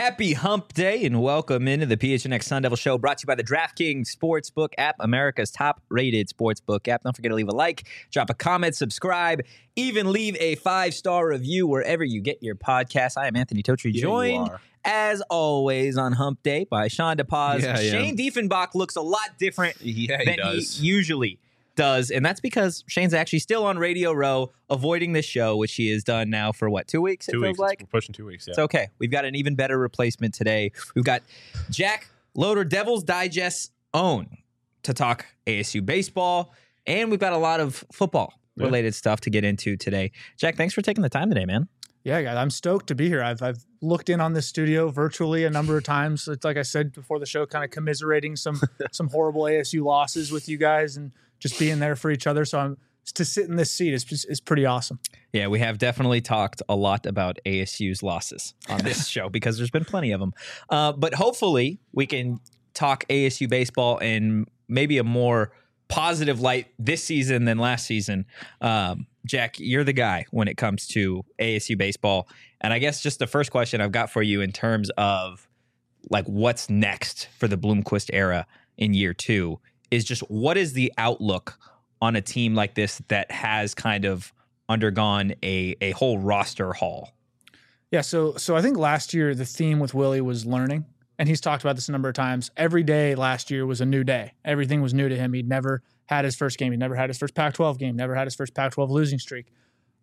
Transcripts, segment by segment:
Happy Hump Day and welcome into the PHNX Sun Devil Show, brought to you by the DraftKings Sportsbook app, America's top-rated sportsbook app. Don't forget to leave a like, drop a comment, subscribe, even leave a 5-star review wherever you get your podcasts. I am Anthony Totri, joined, as always, on Hump Day by Sean DePaz. Shane Diefenbach looks a lot different than he usually does, and that's because Shane's actually still on Radio Row, avoiding this show, which he has done now for, 2 weeks? 2 weeks. We're pushing 2 weeks, yeah. It's okay. We've got an even better replacement today. We've got Jack Loader, Devil's Digest's own, to talk ASU baseball, and we've got a lot of football-related stuff to get into today. Jack, thanks for taking the time today, man. Yeah, guys, I'm stoked to be here. I've looked in on this studio virtually a number of times. It's like I said before the show, kind of commiserating some horrible ASU losses with you guys and just being there for each other. So to sit in this seat is pretty awesome. Yeah, we have definitely talked a lot about ASU's losses on this show because there's been plenty of them. But hopefully we can talk ASU baseball in maybe a more positive light this season than last season. Jack, you're the guy when it comes to ASU baseball. And I guess just the first question I've got for you in terms of like what's next for the Bloomquist era in year 2 is just what is the outlook on a team like this that has kind of undergone a whole roster haul? Yeah, so I think last year the theme with Willie was learning, and he's talked about this a number of times. Every day last year was a new day. Everything was new to him. He'd never had his first game. He'd never had his first Pac-12 game, never had his first Pac-12 losing streak.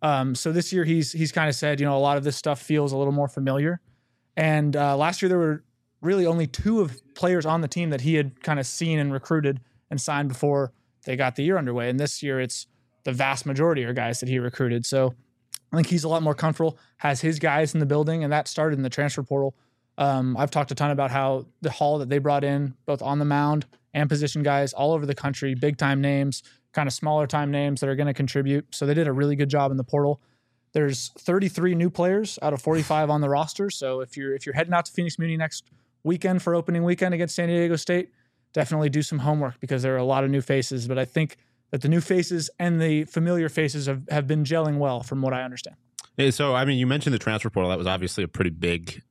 So this year he's kind of said, a lot of this stuff feels a little more familiar. And last year there were really only 2 of players on the team that he had kind of seen and recruited and signed before they got the year underway. And this year it's the vast majority are guys that he recruited. So I think he's a lot more comfortable, has his guys in the building, and that started in the transfer portal. I've talked a ton about how the haul that they brought in, both on the mound and position guys all over the country, big-time names, kind of smaller-time names that are going to contribute. So they did a really good job in the portal. There's 33 new players out of 45 on the roster. So if you're heading out to Phoenix Muni next weekend for opening weekend against San Diego State, definitely do some homework because there are a lot of new faces. But I think that the new faces and the familiar faces have been gelling well from what I understand. Yeah, so, I mean, you mentioned the transfer portal. That was obviously a pretty big,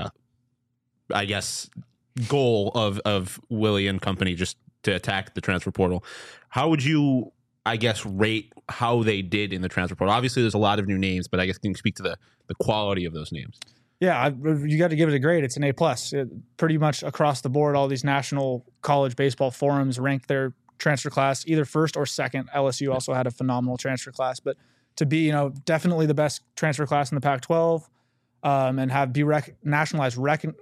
goal of Willie and company just to attack the transfer portal. How would you, rate how they did in the transfer portal? Obviously, there's a lot of new names, but I guess can you speak to the quality of those names? Yeah, you got to give it a grade. It's an A+. Pretty much across the board, all these national college baseball forums ranked their transfer class either first or second. LSU also had a phenomenal transfer class, but to be, definitely the best transfer class in the Pac-12 and be recognized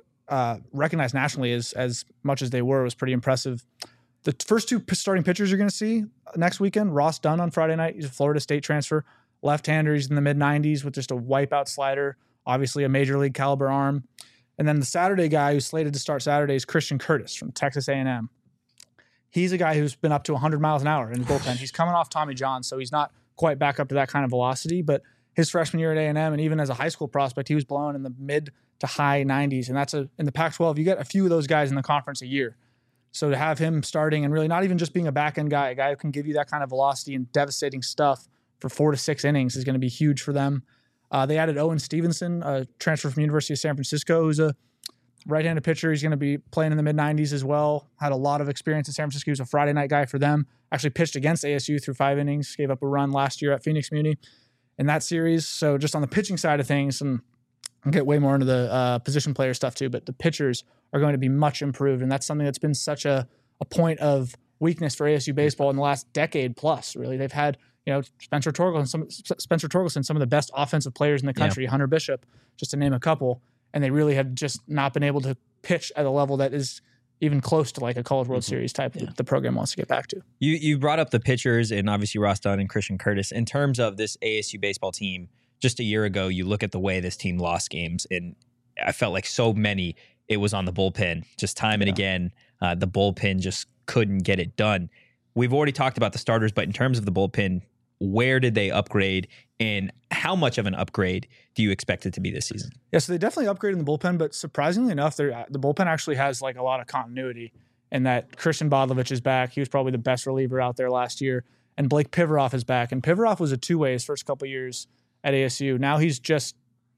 nationally as much as they were was pretty impressive. The first 2 starting pitchers you're going to see next weekend, Ross Dunn on Friday night. He's a Florida State transfer, left-hander. He's in the mid-90s with just a wipeout slider. Obviously a major league caliber arm. And then the Saturday guy who's slated to start Saturday is Christian Curtis from Texas A&M. He's a guy who's been up to 100 miles an hour in the bullpen. He's coming off Tommy John, so he's not quite back up to that kind of velocity. But his freshman year at A&M, and even as a high school prospect, he was blowing in the mid to high 90s. And that's in the Pac-12, you get a few of those guys in the conference a year. So to have him starting and really not even just being a back-end guy, a guy who can give you that kind of velocity and devastating stuff for 4 to 6 innings is going to be huge for them. They added Owen Stevenson, a transfer from University of San Francisco, who's a right-handed pitcher. He's going to be playing in the mid-90s as well. Had a lot of experience in San Francisco. He was a Friday night guy for them. Actually pitched against ASU through 5 innings. Gave up a run last year at Phoenix Muni in that series. So just on the pitching side of things, and I'll get way more into the position player stuff too, but the pitchers are going to be much improved. And that's something that's been such a point of weakness for ASU baseball in the last decade plus, really. They've had Spencer Torkelson, some of the best offensive players in the country, Hunter Bishop, just to name a couple, and they really have just not been able to pitch at a level that is even close to like a College World Series type that the program wants to get back to. You brought up the pitchers and obviously Ross Dunn and Christian Curtis. In terms of this ASU baseball team, just a year ago, you look at the way this team lost games, and I felt like so many, it was on the bullpen. Just time and again, the bullpen just couldn't get it done. We've already talked about the starters, but in terms of the bullpen, where did they upgrade and how much of an upgrade do you expect it to be this season? Yeah, so they definitely upgraded in the bullpen, but surprisingly enough, the bullpen actually has like a lot of continuity in that Christian Bodlovich is back. He was probably the best reliever out there last year. And Blake Pivaroff is back. And Pivaroff was a two-way his first couple years at ASU. Now he's just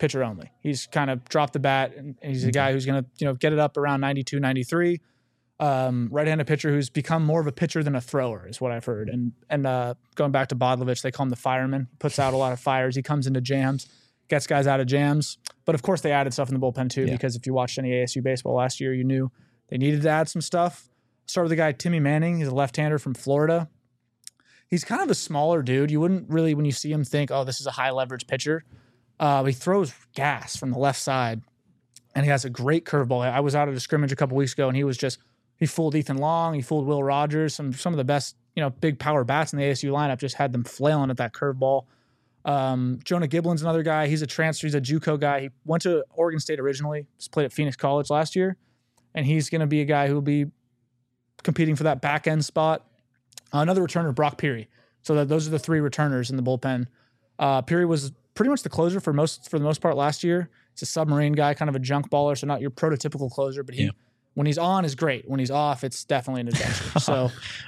pitcher only. He's kind of dropped the bat, and he's a guy who's going to get it up around 92, 93. Right-handed pitcher who's become more of a pitcher than a thrower is what I've heard. And going back to Bodlovich, they call him the fireman. He puts out a lot of fires. He comes into jams, gets guys out of jams. But of course, they added stuff in the bullpen too, because if you watched any ASU baseball last year, you knew they needed to add some stuff. Start with the guy Timmy Manning. He's a left-hander from Florida. He's kind of a smaller dude. You wouldn't really, when you see him, think, oh, this is a high-leverage pitcher. He throws gas from the left side, and he has a great curveball. I was out at a scrimmage a couple weeks ago, and he fooled Ethan Long. He fooled Will Rogers. Some of the best, big power bats in the ASU lineup just had them flailing at that curveball. Jonah Giblin's another guy. He's a transfer. He's a JUCO guy. He went to Oregon State originally. Just played at Phoenix College last year, and he's going to be a guy who will be competing for that back end spot. Another returner, Brock Peary. So those are the three returners in the bullpen. Peary was pretty much the closer for the most part last year. He's a submarine guy, kind of a junk baller, so not your prototypical closer, but when he's on is great. When he's off, it's definitely an adventure. So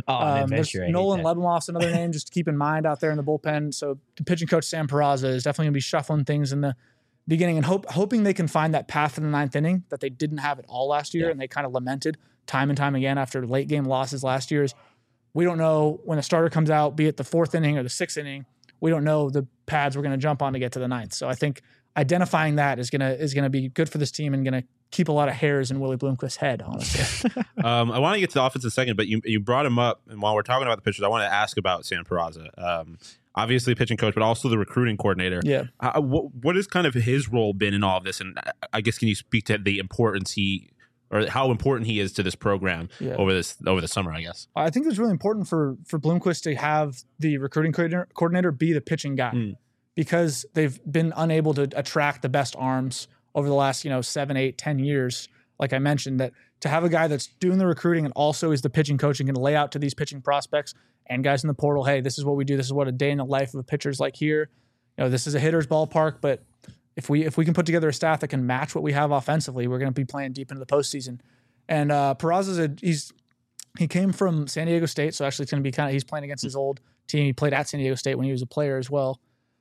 Nolan Lebeloff's another name just to keep in mind out there in the bullpen. So the pitching coach Sam Peraza is definitely going to be shuffling things in the beginning and hoping they can find that path in the ninth inning that they didn't have at all last year, and they kind of lamented time and time again after late game losses last year. We don't know when a starter comes out, be it the fourth inning or the sixth inning, we don't know the pads we're going to jump on to get to the ninth. So I think identifying that is gonna be good for this team and going to keep a lot of hairs in Willie Bloomquist's head, honestly. I want to get to the offense in a second, but you brought him up, and while we're talking about the pitchers, I want to ask about Sam Peraza. Obviously pitching coach, but also the recruiting coordinator. Yeah. What has kind of his role been in all of this? And I guess, can you speak to the importance or how important he is to this program over the summer, I guess? I think it's really important for Bloomquist to have the recruiting coordinator be the pitching guy because they've been unable to attract the best arms over the last 7, 8, 10 years. Like I mentioned, that to have a guy that's doing the recruiting and also is the pitching coach and can lay out to these pitching prospects and guys in the portal, hey, this is what we do. This is what a day in the life of a pitcher is like here. This is a hitter's ballpark, but if we can put together a staff that can match what we have offensively, we're going to be playing deep into the postseason. And Peraza's he came from San Diego State, so actually it's going to be he's playing against his old team. He played at San Diego State when he was a player as well.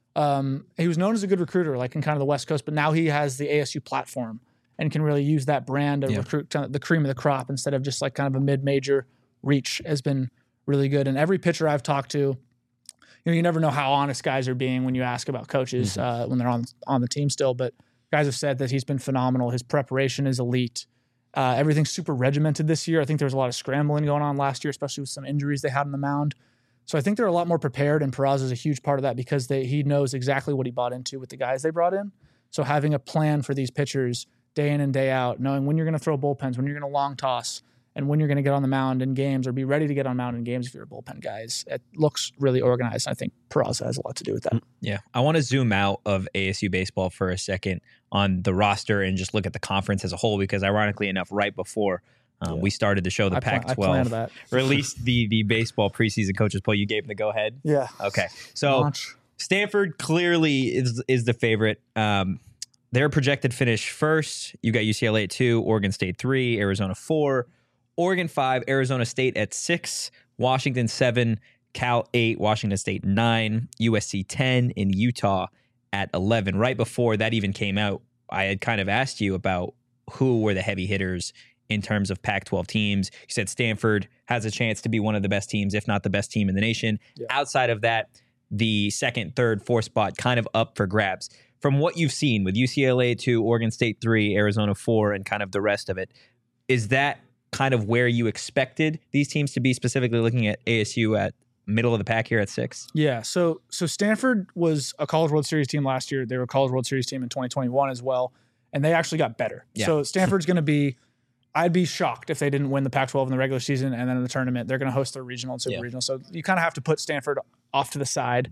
He was known as a good recruiter, like in kind of the West Coast, but now he has the ASU platform and can really use that brand to recruit the cream of the crop instead of just like kind of a mid-major reach has been really good. And every pitcher I've talked to, you never know how honest guys are being when you ask about coaches when they're on the team still, but guys have said that he's been phenomenal. His preparation is elite. Everything's super regimented this year. I think there was a lot of scrambling going on last year, especially with some injuries they had on the mound. So I think they're a lot more prepared, and Peraza is a huge part of that because he knows exactly what he bought into with the guys they brought in. So having a plan for these pitchers day in and day out, knowing when you're going to throw bullpens, when you're going to long toss, and when you're going to get on the mound in games or be ready to get on mound in games if you're a bullpen guy, it looks really organized. I think Peraza has a lot to do with that. Yeah. I want to zoom out of ASU baseball for a second on the roster and just look at the conference as a whole, because ironically enough, right before we started the show, the Pac-12 released the baseball preseason coaches poll. You gave them the go-ahead? Yeah. Okay. So Stanford clearly is the favorite. Their projected finish first. You got UCLA at 2, Oregon State 3, Arizona 4, Oregon 5, Arizona State at 6, Washington 7, Cal 8, Washington State 9, USC 10, and Utah at 11. Right before that even came out, I had kind of asked you about who were the heavy hitters in terms of Pac-12 teams. You said Stanford has a chance to be one of the best teams, if not the best team in the nation. Yeah. Outside of that, the second, third, fourth spot kind of up for grabs. From what you've seen with UCLA 2, Oregon State 3, Arizona 4, and kind of the rest of it, is that kind of where you expected these teams to be, specifically looking at ASU at middle of the pack here at 6? Yeah, so Stanford was a College World Series team last year. They were a College World Series team in 2021 as well, and they actually got better. Yeah. So Stanford's going to be, I'd be shocked if they didn't win the Pac-12 in the regular season, and then in the tournament, they're going to host their regional and super regional. So you kind of have to put Stanford off to the side.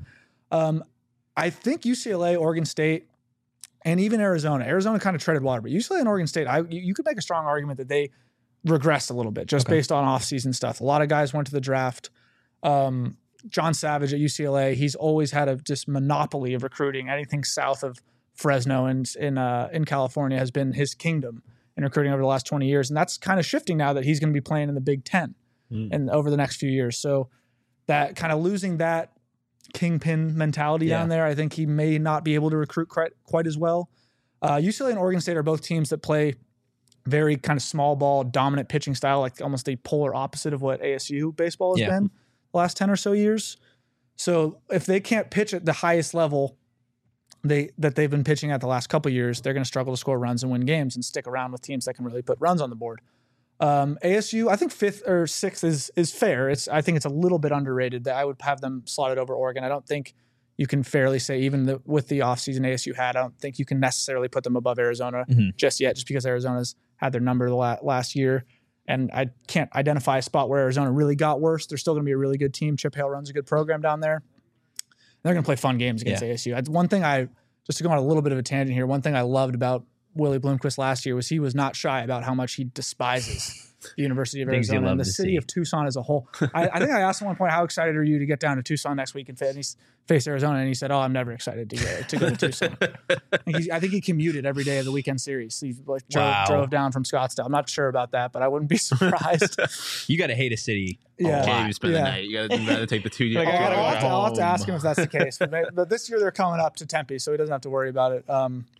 I think UCLA, Oregon State, and even Arizona kind of treaded water, but UCLA and Oregon State, you could make a strong argument that they regressed a little bit just based on off-season stuff. A lot of guys went to the draft. John Savage at UCLA, he's always had a just monopoly of recruiting. Anything south of Fresno and in California has been his kingdom in recruiting over the last 20 years. And that's kind of shifting now that he's going to be playing in the Big Ten and over the next few years. So that kind of losing that kingpin mentality down there, I think he may not be able to recruit quite as well. UCLA and Oregon State are both teams that play very kind of small ball, dominant pitching style, like almost the polar opposite of what ASU baseball has been the last 10 or so years. So if they can't pitch at the highest level that they've been pitching at the last couple of years, they're going to struggle to score runs and win games and stick around with teams that can really put runs on the board. ASU, I think 5th or 6th is fair. I think it's a little bit underrated. That I would have them slotted over Oregon. I don't think you can fairly say, even with the offseason ASU had, I don't think you can necessarily put them above Arizona just yet, just because Arizona's had their number the last year. And I can't identify a spot where Arizona really got worse. They're still going to be a really good team. Chip Hale runs a good program down there. They're going to play fun games against ASU. One thing just to go on a little bit of a tangent here, one thing I loved about Willie Bloomquist last year was he was not shy about how much he despises the University of Arizona and the city of Tucson as a whole. I think I asked him at one point, how excited are you to get down to Tucson next week and face Arizona? And he said, I'm never excited to go to Tucson. I think he commuted every day of the weekend series. He drove down from Scottsdale. I'm not sure about that, but I wouldn't be surprised. You got to hate a city. Yeah, you spend the night. You got to take the 2 years. I'll have to ask him if that's the case. But this year they're coming up to Tempe, so he doesn't have to worry about it.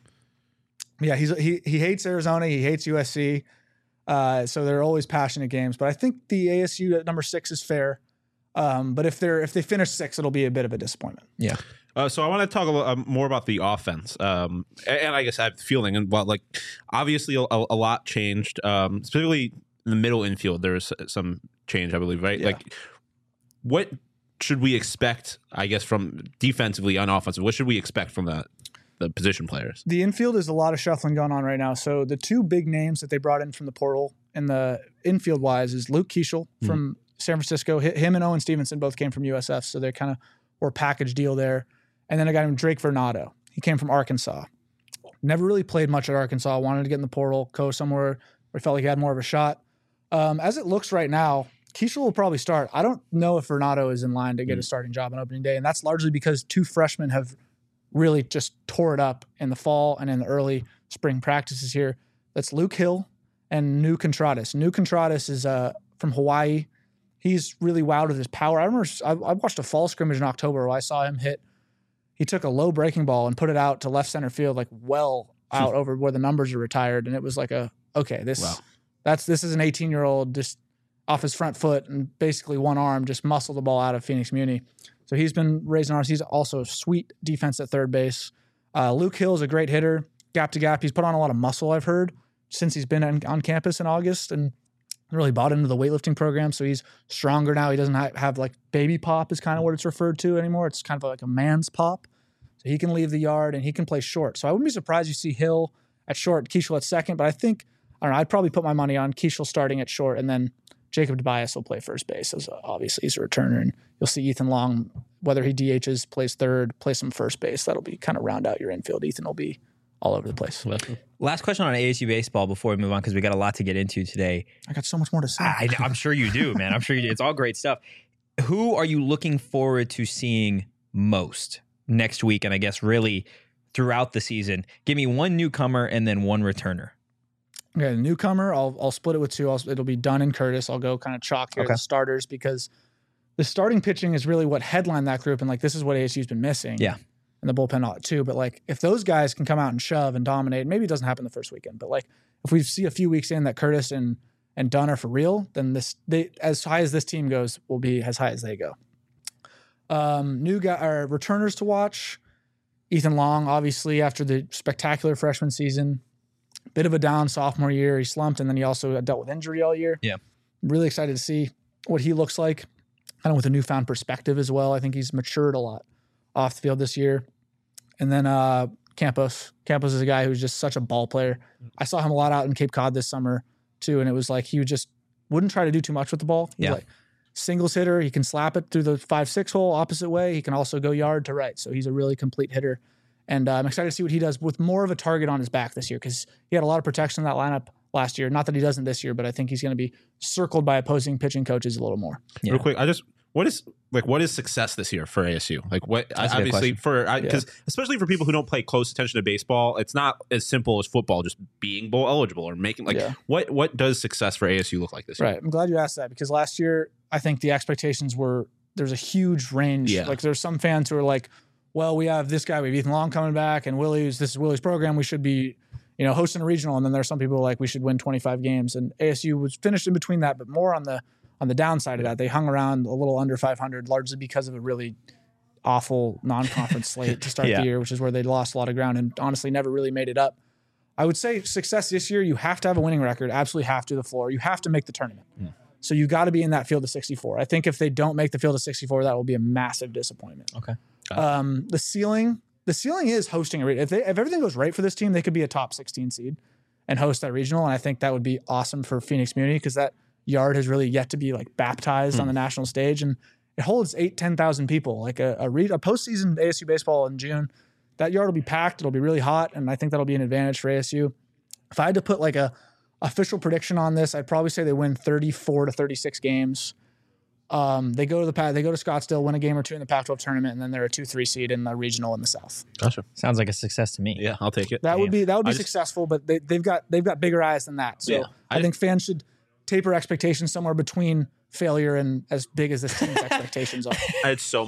He hates Arizona. He hates USC. So they're always passionate games. But I think the ASU at number 6 is fair. But if they finish 6, it'll be a bit of a disappointment. Yeah. So I want to talk a little more about the offense. And I guess I have the feeling, and obviously a lot changed, specifically in the middle infield. There was some change, I believe, right? Yeah. What should we expect, I guess, from defensively on offensive? What should we expect from the position players? The infield is a lot of shuffling going on right now. So the 2 big names that they brought in from the portal in the infield wise is Luke Keeschel from San Francisco. Him and Owen Stevenson both came from USF, so they kind of were a package deal there. And then a guy named Drake Vernado. He came from Arkansas. Never really played much at Arkansas. Wanted to get in the portal, go somewhere where he felt like he had more of a shot. As it looks right now, Keeschel will probably start. I don't know if Vernado is in line to get a starting job on opening day, and that's largely because 2 freshmen have really just tore it up in the fall and in the early spring practices here. That's Luke Hill and Nu Contradas. Nu Contradas is from Hawaii. He's really wowed with his power. I remember I watched a fall scrimmage in October where I saw him he took a low breaking ball and put it out to left center field, out over where the numbers are retired. And it was like this is an 18-year-old just off his front foot and basically one arm just muscled the ball out of Phoenix Muni. So he's been raising arms. He's also a sweet defense at third base. Luke Hill is a great hitter, gap to gap. He's put on a lot of muscle, I've heard, since he's been on campus in August and really bought into the weightlifting program. So he's stronger now. He doesn't have baby pop is kind of what it's referred to anymore. It's kind of like a man's pop. So he can leave the yard and he can play short. So I wouldn't be surprised you see Hill at short, Keeschel at second. But I'd probably put my money on Keeschel starting at short, and then Jacob Tobias will play first base, as obviously he's a returner, and you'll see Ethan Long, whether he DHs, plays third, play some first base. That'll be kind of round out your infield. Ethan will be all over the place. Last question on ASU baseball before we move on, because we got a lot to get into today. I got so much more to say. I'm sure you do, man. I'm sure you do. It's all great stuff. Who are you looking forward to seeing most next week, and I guess really throughout the season? Give me one newcomer and then one returner. Okay, the newcomer, I'll split it with 2. It'll be Dunn and Curtis. I'll go kind of chalk here the starters, because the starting pitching is really what headlined that group, and this is what ASU's been missing. Yeah. And the bullpen too. But if those guys can come out and shove and dominate, maybe it doesn't happen the first weekend, but if we see a few weeks in that Curtis and Dunn are for real, then as high as this team goes will be as high as they go. New guy or returners to watch. Ethan Long, obviously, after the spectacular freshman season. Bit of a down sophomore year. He slumped, and then he also dealt with injury all year. Yeah. I'm really excited to see what he looks like, kind of with a newfound perspective as well. I think he's matured a lot off the field this year. And then Campos. Campos is a guy who's just such a ball player. I saw him a lot out in Cape Cod this summer, too, and it was he wouldn't try to do too much with the ball. He's singles hitter. He can slap it through the 5-6 hole opposite way. He can also go yard to right. So he's a really complete hitter. And I'm excited to see what he does with more of a target on his back this year, because he had a lot of protection in that lineup last year. Not that he doesn't this year, but I think he's going to be circled by opposing pitching coaches a little more. Yeah. Real quick, what is success this year for ASU? Obviously because especially for people who don't pay close attention to baseball, it's not as simple as football, just being bowl eligible or making what does success for ASU look like this year? Right. I'm glad you asked that, because last year I think the expectations were there's a huge range. Yeah. There's some fans who are well, we have this guy, we have Ethan Long coming back, and this is Willie's program. We should be, hosting a regional. And then there's some people like we should win 25 games. And ASU was finished in between that, but more on the downside of that. They hung around a little under 500, largely because of a really awful non-conference slate to start the year, which is where they lost a lot of ground and honestly never really made it up. I would say success this year, you have to have a winning record, absolutely have to the floor. You have to make the tournament. So you got to be in that field of 64. I think if they don't make the field of 64, that will be a massive disappointment. Okay. The ceiling is hosting a regional. If everything goes right for this team, they could be a top 16 seed and host that regional. And I think that would be awesome for Phoenix Community because that yard has really yet to be like baptized on the national stage. And it holds 10,000 people. Like a postseason ASU baseball in June, that yard will be packed. It'll be really hot, and I think that'll be an advantage for ASU. If I had to put like a official prediction on this, I'd probably say they win 34 to 36 games. They go to Scottsdale, win a game or two in the Pac-12 tournament, and then they're a 2-3 seed in the regional in the South. Gotcha. Sounds like a success to me. Yeah, I'll take it. That would be successful, but they've got bigger eyes than that. So I think fans should taper expectations somewhere between failure and as big as this team's expectations are. I had so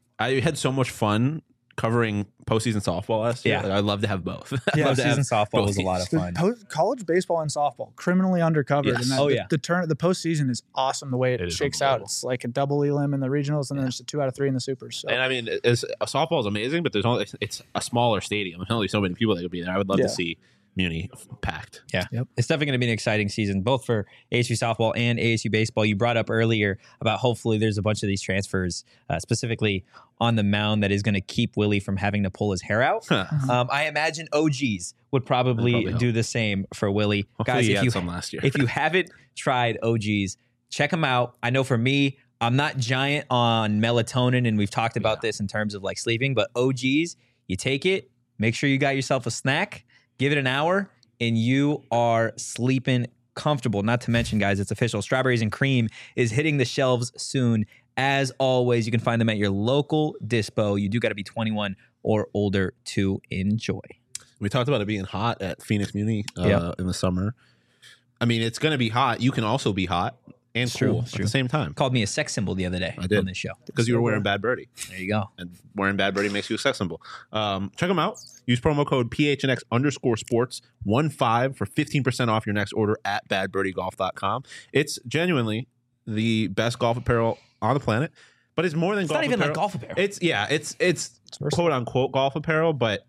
much fun covering postseason softball last year. Yeah. Like, I'd love to have both. Postseason softball was a lot of fun. College baseball and softball, criminally undercovered. Yes. And the postseason is awesome the way it shakes out. It's like a double elim in the regionals, and then it's a 2 out of 3 in the supers. So. And I mean, softball is amazing, but it's a smaller stadium. There's only so many people that could be there. I would love to see Muni packed. Yeah. Yep. It's definitely going to be an exciting season, both for ASU softball and ASU baseball. You brought up earlier about hopefully there's a bunch of these transfers, specifically on the mound, that is going to keep Willie from having to pull his hair out. I imagine OGs would probably do the same for Willie. Hopefully Guys, he had some last year. if you haven't tried OGs, check them out. I know for me, I'm not giant on melatonin, and we've talked about this in terms of like sleeping, but OGs, you take it, make sure you got yourself a snack, give it an hour, and you are sleeping comfortable. Not to mention, guys, it's official. Strawberries and Cream is hitting the shelves soon. As always, you can find them at your local dispo. You do got to be 21 or older to enjoy. We talked about it being hot at Phoenix Muni in the summer. I mean, it's going to be hot. You can also be hot and cool at the same time. Called me a sex symbol the other day on this show. Because you were wearing Bad Birdie. There you go. And wearing Bad Birdie makes you a sex symbol. Check them out. Use promo code PHNX_sports 15 for 15% off your next order at badbirdiegolf.com. It's genuinely the best golf apparel on the planet, but it's more than golf apparel. It's not even like golf apparel. It's quote unquote golf apparel, but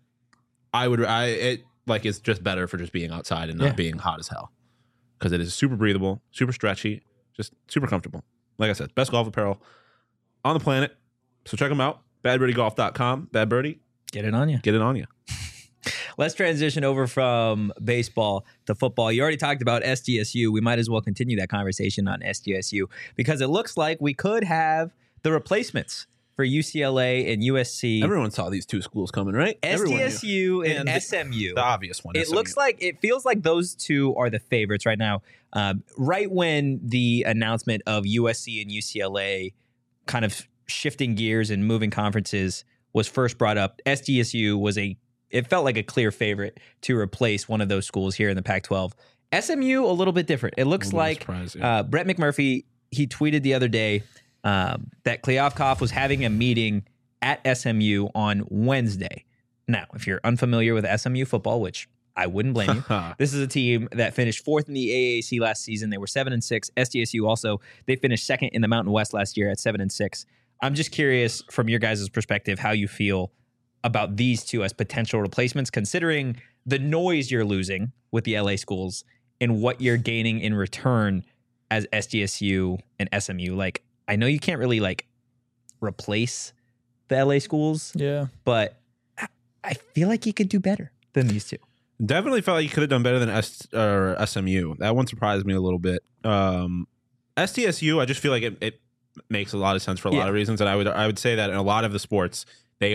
it's just better for just being outside and not being hot as hell. Because it is super breathable, super stretchy, just super comfortable. Like I said, best golf apparel on the planet. So check them out. Badbirdiegolf.com. Bad Birdie. Get it on you. Get it on you. Let's transition over from baseball to football. You already talked about SDSU. We might as well continue that conversation on SDSU because it looks like we could have the replacements for UCLA and USC. Everyone saw these two schools coming, right? SDSU and SMU. The obvious one. It feels like those two are the favorites right now. Right when the announcement of USC and UCLA kind of shifting gears and moving conferences was first brought up, SDSU it felt like a clear favorite to replace one of those schools here in the Pac-12. SMU, a little bit different. It looks like Brett McMurphy, he tweeted the other day that Kliavkoff was having a meeting at SMU on Wednesday. Now, if you're unfamiliar with SMU football, which I wouldn't blame you, this is a team that finished 4th in the AAC last season. They were 7-6. SDSU also, they finished 2nd in the Mountain West last year at 7-6. I'm just curious from your guys' perspective how you feel about these two as potential replacements, considering the noise you're losing with the LA schools and what you're gaining in return as SDSU and SMU. Like, I know you can't really replace the LA schools, but I feel like you could do better than these two. Definitely felt like you could have done better than SMU. That one surprised me a little bit. SDSU, I just feel like it makes a lot of sense for a lot of reasons, and I would say that in a lot of the sports they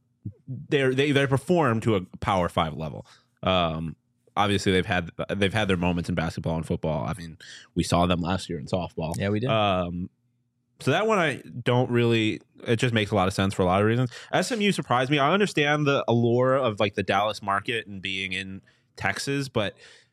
perform to a Power 5 level. Obviously, they've had their moments in basketball and football. I mean, we saw them last year in softball. Yeah, we did. So that one I don't really. It just makes a lot of sense for a lot of reasons. SMU surprised me. I understand the allure of the Dallas market and being in Texas, but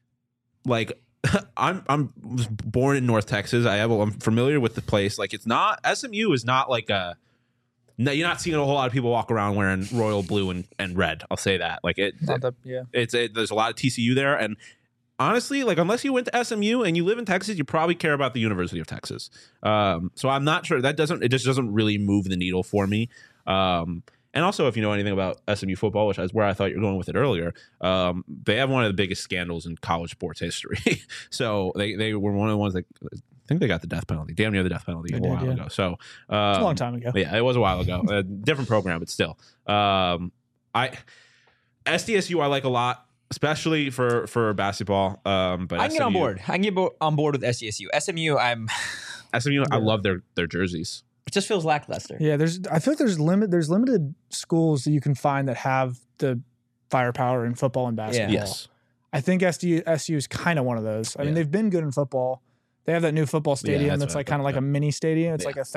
I'm born in North Texas. I'm familiar with the place. It's not SMU is not like a No, you're not seeing a whole lot of people walk around wearing royal blue and red. I'll say that. Like Not that, yeah. there's a lot of TCU there, and honestly, like unless you went to SMU and you live in Texas, you probably care about the University of Texas. So I'm not sure it just doesn't really move the needle for me. And also, if you know anything about SMU football, which is where I thought you were going with it earlier, they have one of the biggest scandals in college sports history. So they were one of the ones that I think they got the death penalty, damn near the death penalty a while ago. So It's a long time ago. yeah, it was a while ago. A different program, but still. SDSU I like a lot, especially for basketball. But I can get on board. I can get on board with SDSU. SMU, I love their jerseys. it just feels lackluster. Yeah, I feel like there's limited schools that you can find that have the firepower in football and basketball. Yes. I think SDSU is kind of one of those. I mean, they've been good in football. They have that new football stadium that's like kind of like a mini stadium. It's like a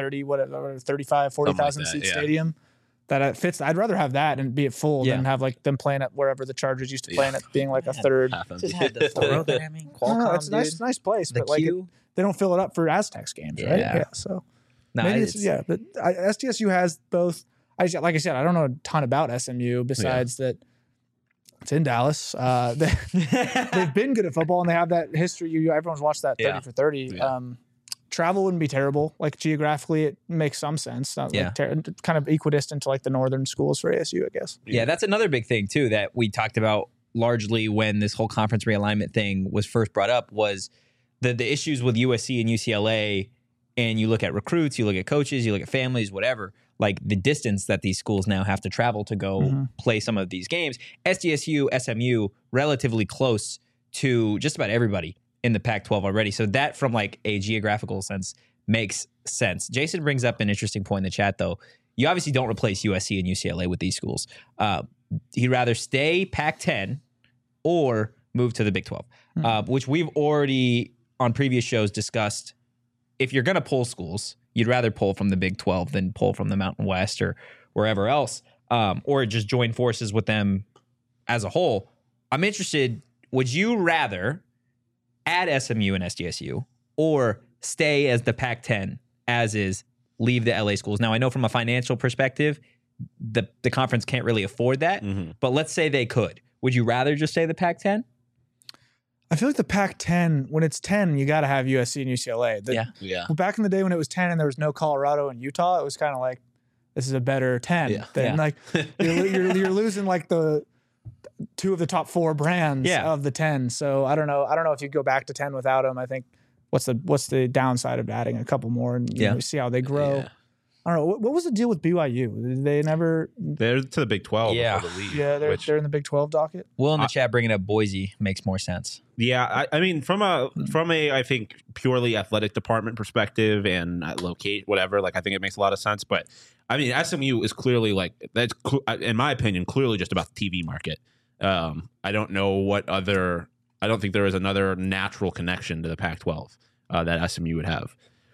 35, 40,000 seat stadium that fits. I'd rather have that and be it full than have like them playing at wherever the Chargers used to play at being like a third. Just had the programming. Qualcomm, It's a nice place, The but like queue. they don't fill it up for Aztecs games, right? Yeah. So maybe but SDSU has both. Like I said, I don't know a ton about SMU besides that it's in Dallas. They've been good at football and they have that history. Everyone's watched that 30 for 30. Yeah. Travel wouldn't be terrible. Like geographically, it makes some sense. Not like kind of equidistant to like the northern schools for ASU, I guess. Yeah, that's another big thing too that we talked about largely when this whole conference realignment thing was first brought up was the issues with USC and UCLA. And you look at recruits, you look at coaches, you look at families, whatever, like the distance that these schools now have to travel to go play some of these games. SDSU, SMU, relatively close to just about everybody in the Pac-12 already. So that from like a geographical sense makes sense. Jason brings up an interesting point in the chat though. You obviously don't replace USC and UCLA with these schools. He'd rather stay Pac-10 or move to the Big 12, which we've already on previous shows discussed. If you're going to pull schools, you'd rather pull from the Big 12 than pull from the Mountain West or wherever else, or just join forces with them as a whole. I'm interested, would you rather add SMU and SDSU or stay as the Pac-10 as is, leave the LA schools? Now, I know from a financial perspective, the conference can't really afford that, but let's say they could. Would you rather just stay the Pac-10? I feel like the Pac-10, when it's 10, you got to have USC and UCLA. Yeah. Back in the day when it was 10 and there was no Colorado and Utah, it was kind of like, this is a better 10. Like you're losing like the two of the top four brands of the 10. So I don't know. I don't know if you go back to 10 without them. I think what's the downside of adding a couple more and you know, see how they grow. Yeah. I don't know. What was the deal with BYU? Did they never? They're to the Big 12. Yeah. I believe, Yeah, they're in the Big 12 docket. Will in the chat bringing up Boise makes more sense. Yeah, I mean, from a I think purely athletic department perspective and locate whatever, like I think it makes a lot of sense. But I mean, SMU is clearly like that's in my opinion clearly just about the TV market. I don't know what other. I don't think there is another natural connection to the Pac-12 that SMU would have.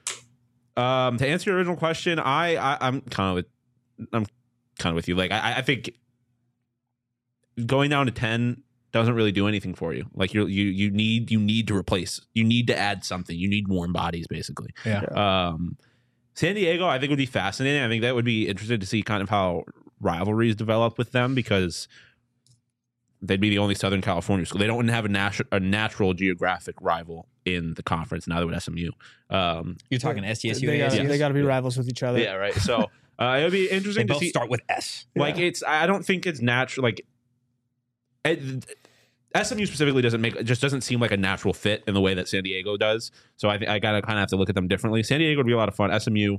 To answer your original question, I'm kind of with you. Like I think going down to 10 doesn't really do anything for you. Like you need to replace. You need to add something. You need warm bodies, basically. Yeah. San Diego, I think would be fascinating. I think that would be interesting to see kind of how rivalries develop with them because they'd be the only Southern California school. They don't have a natural geographic rival in the conference. Now with SMU. You're talking SDSU. They got to be rivals with each other. Yeah, right. So it would be interesting they to both see. Start with S. Like I don't think it's natural. Like SMU specifically doesn't seem like a natural fit in the way that San Diego does. So I gotta kind of have to look at them differently. San Diego would be a lot of fun. SMU,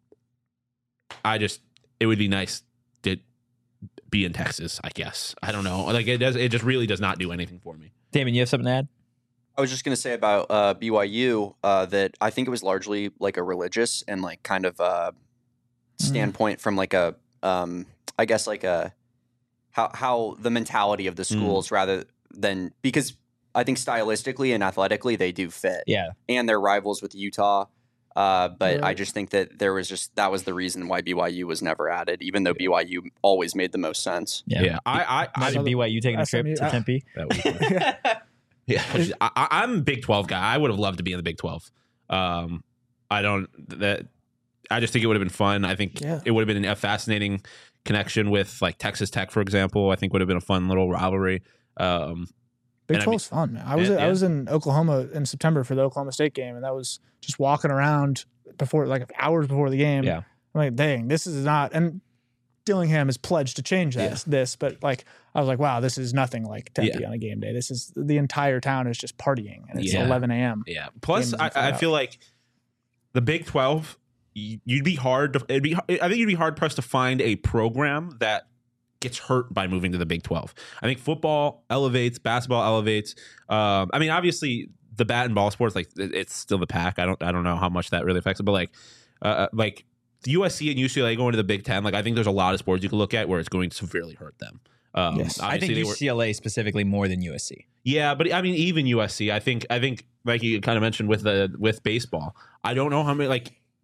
it would be nice to be in Texas. I guess I don't know. Like it just really does not do anything for me. Damon, you have something to add? I was just going to say about BYU that I think it was largely like a religious and like kind of standpoint from like a I guess like a how the mentality of the schools rather than because I think stylistically and athletically they do fit. Yeah. And they're rivals with Utah. But I just think that that was the reason why BYU was never added, even though BYU always made the most sense. Yeah. Imagine BYU taking a trip to Tempe. That would be fun. Yeah, I'm a Big 12 guy. I would have loved to be in the Big 12. I just think it would have been fun. I think Yeah. it would have been a fascinating connection with like Texas Tech, for example. I think would have been a fun little rivalry. Big And I 12's fun, man. I Yeah. was in Oklahoma in September for the Oklahoma State game, and that was just walking around before, like hours before the game. Yeah. I'm like, dang, this is not. And Dillingham has pledged to change this, but like I was like, wow, this is nothing like Tempe on a game day. This is the entire town is just partying, and it's Yeah. 11 a.m. Yeah. Plus, Games I and flat feel like the Big 12, you'd be hard to. I think you'd be hard pressed to find a program that gets hurt by moving to the Big 12. I think football elevates, basketball elevates. I mean, obviously, the bat and ball sports, like it's still the pack. I don't know how much that really affects it, but like the USC and UCLA going to the Big 10, like I think there's a lot of sports you can look at where it's going to severely hurt them. Yes. I think obviously they were- UCLA specifically more than USC. Yeah, but I mean, even USC, I think like you kind of mentioned with baseball, I don't know how many.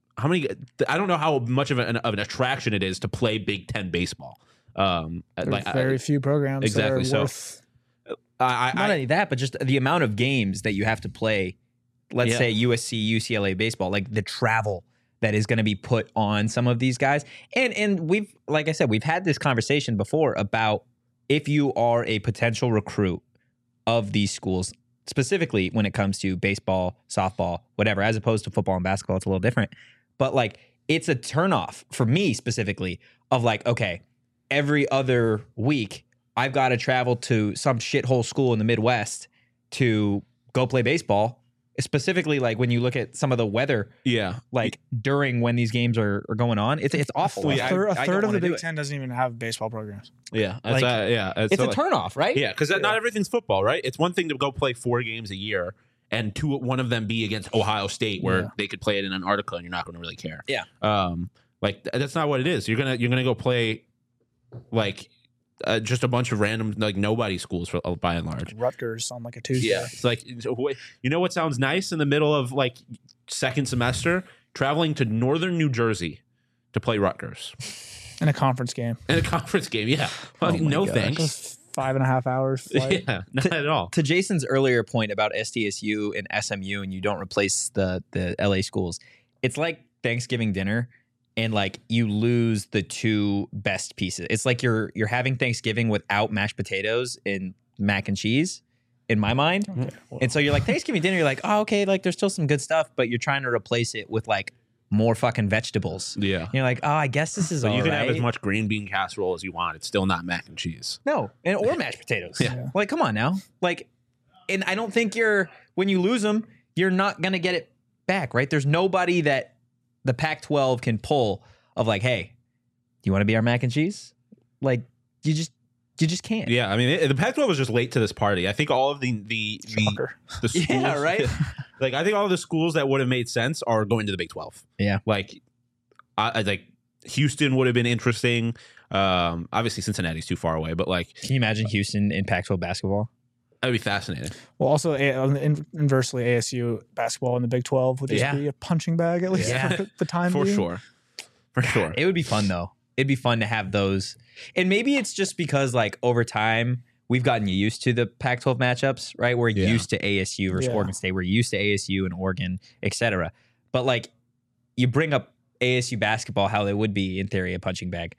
I don't know how much of an attraction it is to play Big 10 baseball. There's very few programs exactly, that so are worth. Not only that, but just the amount of games that you have to play. Let's Yeah. say USC, UCLA baseball, like the travel that is going to be put on some of these guys. And we've, like I said, we've had this conversation before about if you are a potential recruit of these schools, specifically when it comes to baseball, softball, whatever, as opposed to football and basketball, it's a little different. But like, it's a turnoff for me specifically of like, okay, every other week, I've got to travel to some shithole school in the Midwest to go play baseball. Specifically, like when you look at some of the weather, yeah, like during when these games are going on, it's awful. A Like, third, I a don't third of wanna the do Big it. Ten doesn't even have baseball programs. yeah, Like, it's It's a turnoff, right? Yeah, because not everything's football, right? It's one thing to go play 4 games a year and one of them be against Ohio State, where Yeah. they could play it in Antarctica and you're not going to really care. Yeah. Like that's not what it is. You're gonna go play like just a bunch of random like nobody schools for by and large. Rutgers on like a Tuesday. Yeah, it's like you know what sounds nice in the middle of like second semester, traveling to northern New Jersey to play Rutgers In a conference game. in a conference game. Yeah, well, my no gosh. thanks. Just 5.5 hours flight. Yeah, not at all. To Jason's earlier point about SDSU and SMU, and you don't replace the LA schools, it's like Thanksgiving dinner, and like you lose the 2 best pieces. It's like you're having Thanksgiving without mashed potatoes and mac and cheese, in my mind. Okay, well, And so you're like Thanksgiving dinner, you're like, oh, okay, like there's still some good stuff, but you're trying to replace it with like more fucking vegetables. Yeah. You're like, oh, I guess this is So all you can have as right. much green bean casserole as you want. It's still not mac and cheese. No, or mashed potatoes. Yeah. Like, come on now. Like, and I don't think when you lose them, you're not going to get it back, right? There's nobody that the Pac-12 can pull of like, hey, do you want to be our mac and cheese? Like, you just can't. Yeah, I mean, the Pac-12 was just late to this party. I think all of the shocker. schools, Yeah, right? like I think all of the schools that would have made sense are going to the Big 12. Yeah. Like, I like Houston would have been interesting. Obviously Cincinnati's too far away, but like Can you imagine Houston in Pac-12 basketball? that'd be fascinating. Well, also inversely, ASU basketball in the Big 12 would just Yeah. be a punching bag at least Yeah. for the time For being. sure. For sure. It would be fun though. It'd be fun to have those. And maybe it's just because like over time we've gotten used to the Pac-12 matchups, right? We're Yeah. used to ASU versus Yeah. Oregon State. We're used to ASU and Oregon, etc. But like you bring up ASU basketball, how they would be in theory a punching bag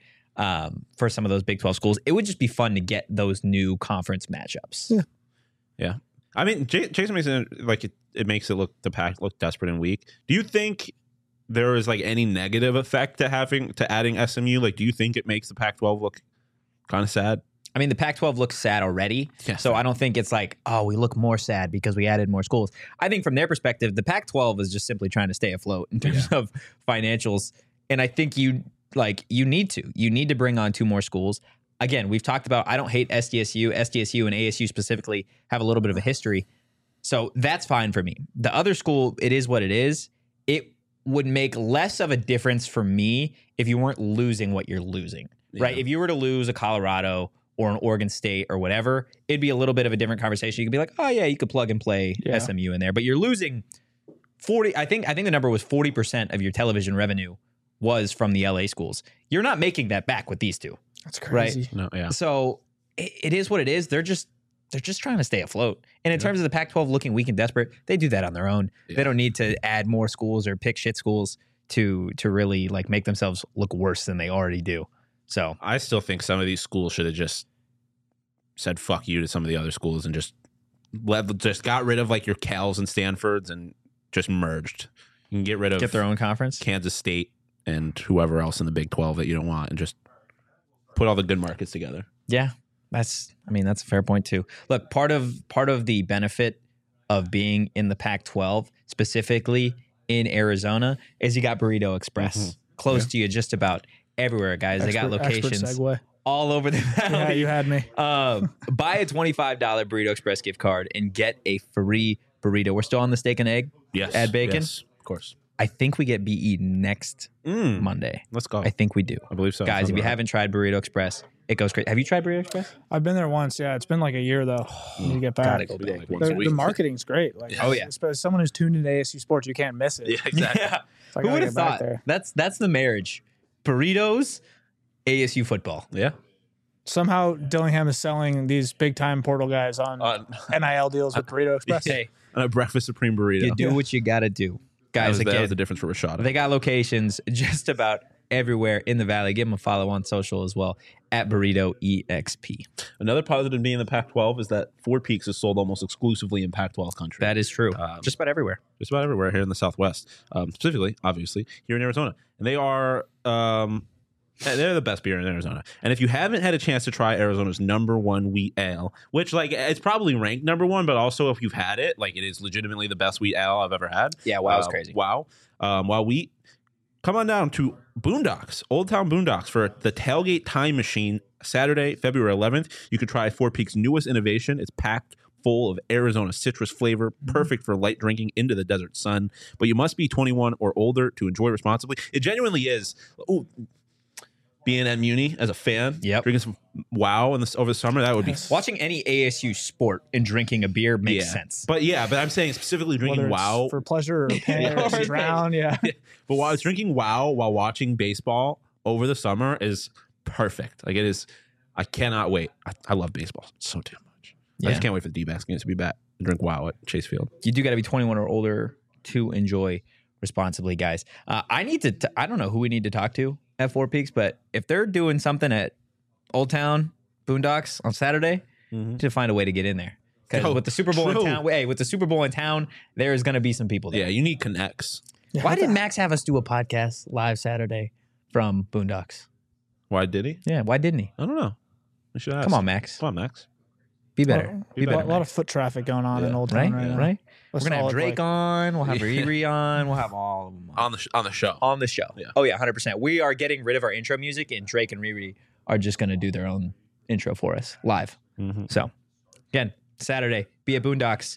for some of those Big 12 schools. It would just be fun to get those new conference matchups. Yeah. Yeah. I mean, Jason makes it like it makes it the Pac look desperate and weak. Do you think there is like any negative effect to adding SMU? Like, do you think it makes the Pac-12 look kind of sad? I mean, the Pac-12 looks sad already, Yeah. so I don't think it's like, oh, we look more sad because we added more schools. I think from their perspective, the Pac-12 is just simply trying to stay afloat in terms of financials, and I think you need to bring on 2 more schools. Again, we've talked about I don't hate SDSU and ASU specifically have a little bit of a history, so that's fine for me. The other school, it is what it is. It would make less of a difference for me if you weren't losing what you're losing, right? Yeah. If you were to lose a Colorado or an Oregon State or whatever, it'd be a little bit of a different conversation. You could be like, oh yeah, you could plug and play Yeah. SMU in there, but you're losing 40. I think the number was 40% of your television revenue was from the LA schools. You're not making that back with these 2. That's Right. crazy. No, yeah. So it is what it is. They're just trying to stay afloat. And in terms of the Pac-12 looking weak and desperate, they do that on their own. Yeah. They don't need to add more schools or pick shit schools. to really like make themselves look worse than they already do. So I still think some of these schools should have just said fuck you to some of the other schools and just got rid of like your Cals and Stanfords and just merged. You can get rid of their own conference. Kansas State and whoever else in the Big 12 that you don't want, and just put all the good markets together. Yeah, that's a fair point too. Look, part of the benefit of being in the Pac-12, specifically in Arizona, is you got Burrito Express close to you just about everywhere, guys. They got locations segue. all over the valley. Yeah, you had me. Buy a $25 Burrito Express gift card and get a free burrito. We're still on the steak and egg. Yes. Add bacon. Yes, of course. I think we get BE next Monday. Let's go. I think we do. I believe so. Guys, if Sounds you right. haven't tried Burrito Express, it goes great. Have you tried Burrito Express? I've been there once. Yeah, it's been like a year though. When you get back, Gotta go We go, back. like, once a week. the marketing's great. Like, Oh, yeah. as someone who's tuned into ASU sports, you can't miss it. Yeah, exactly. Yeah. So I Who gotta would get have back thought? there. That's the marriage. Burritos, ASU football. Yeah. Somehow Dillingham is selling these big time portal guys on NIL deals with Burrito Express. Hey, And a breakfast supreme burrito. you do what you got to do. Guys, that again, was the difference for Rashada. they got locations just about everywhere in the valley. Give them a follow on social as well at Burrito EXP. Another positive being in the Pac-12 is that Four Peaks is sold almost exclusively in Pac-12 country. That is true. Just about everywhere. Just about everywhere here in the Southwest, specifically, obviously, here in Arizona. And they are they're the best beer in Arizona. And if you haven't had a chance to try Arizona's #1 wheat ale, which like it's probably ranked #1, but also if you've had it, like it is legitimately the best wheat ale I've ever had. Yeah, wow, it's crazy. Wow. Wow wheat. Come on down to Boondocks, Old Town Boondocks, for the Tailgate Time Machine, Saturday, February 11th. You could try Four Peaks' newest innovation. It's packed full of Arizona citrus flavor, perfect for light drinking into the desert sun. But you must be 21 or older to enjoy responsibly. It genuinely is. Ooh, being at Muni as a fan, Yep. drinking some Wow over the summer, that would be. Watching any ASU sport and drinking a beer makes sense. But I'm saying specifically drinking Whether it's Wow. for pleasure or pain or or drown. Yeah. But while I was drinking Wow while watching baseball over the summer is perfect. Like it is. I cannot wait. I love baseball so damn much. I Yeah. just can't wait for the D-backs games to be back and drink Wow at Chase Field. You do got to be 21 or older to enjoy responsibly, guys. I need to. I don't know who we need to talk to at Four Peaks, but if they're doing something at Old Town Boondocks on Saturday, to find a way to get in there. Because Oh, with the Super Bowl true. in town, with the Super Bowl in town, there is going to be some people there. Yeah, you need connects. Yeah, Why did Max have us do a podcast live Saturday from Boondocks? Why did he? Yeah, why didn't he? I don't know. I should ask. Come on, Max. Come on, Max. Be better. Well, Be better. a lot of Max. foot traffic going on in Yeah. Old Right? Town right now. Right? A We're going to have solid, Drake like- on. We'll have Yeah. Riri on. We'll have all of them on. On the show. On the show. Yeah. Oh, yeah, 100%. We are getting rid of our intro music, and Drake and Riri are just going to do their own intro for us live. Mhm. So, again, Saturday, be at Boondocks,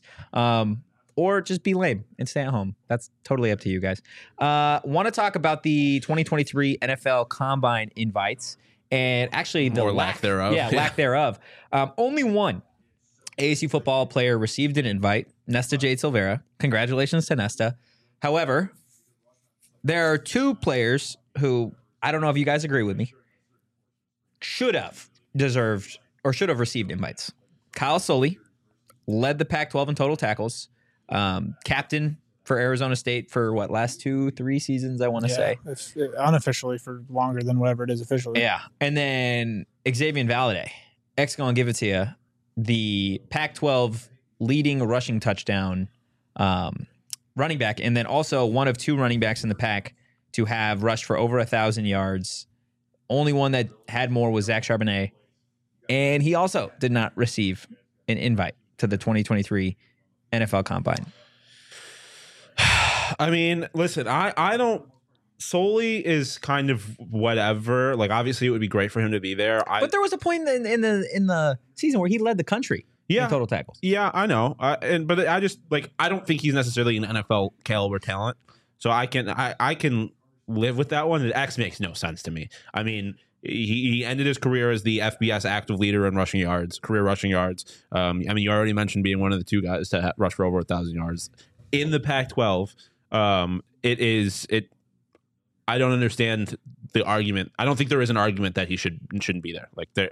or just be lame and stay at home. That's totally up to you guys. Want to talk about the 2023 NFL Combine invites, and actually the Or lack thereof. Yeah, Yeah. lack thereof. Only one ASU football player received an invite, Nesta Jade Silvera. Congratulations to Nesta. However, there are two players who, I don't know if you guys agree with me, should have deserved or should have received invites. Kyle Soley led the Pac-12 in total tackles, captain for Arizona State for last 2-3 seasons, I want to say. It's unofficially for longer than whatever it is officially. Yeah. And then Xavier Valade, gonna give it to you, the Pac-12 leading rushing touchdown running back, and then also one of two running backs in the pack to have rushed for over 1,000 yards. Only one that had more was Zach Charbonnet, and he also did not receive an invite to the 2023 NFL Combine. I mean, listen, I don't. Solely is kind of whatever. Like, obviously, it would be great for him to be there. But there was a point in the season where he led the country in total tackles. Yeah, I know. But I just I don't think he's necessarily an NFL caliber talent. So I can live with that one. The X makes no sense to me. I mean, he ended his career as the FBS active leader in rushing yards, career rushing yards. I mean, you already mentioned being one of the two guys to rush for over 1,000 yards in the Pac-12. I don't understand the argument. I don't think there is an argument that he shouldn't be there. Like, there,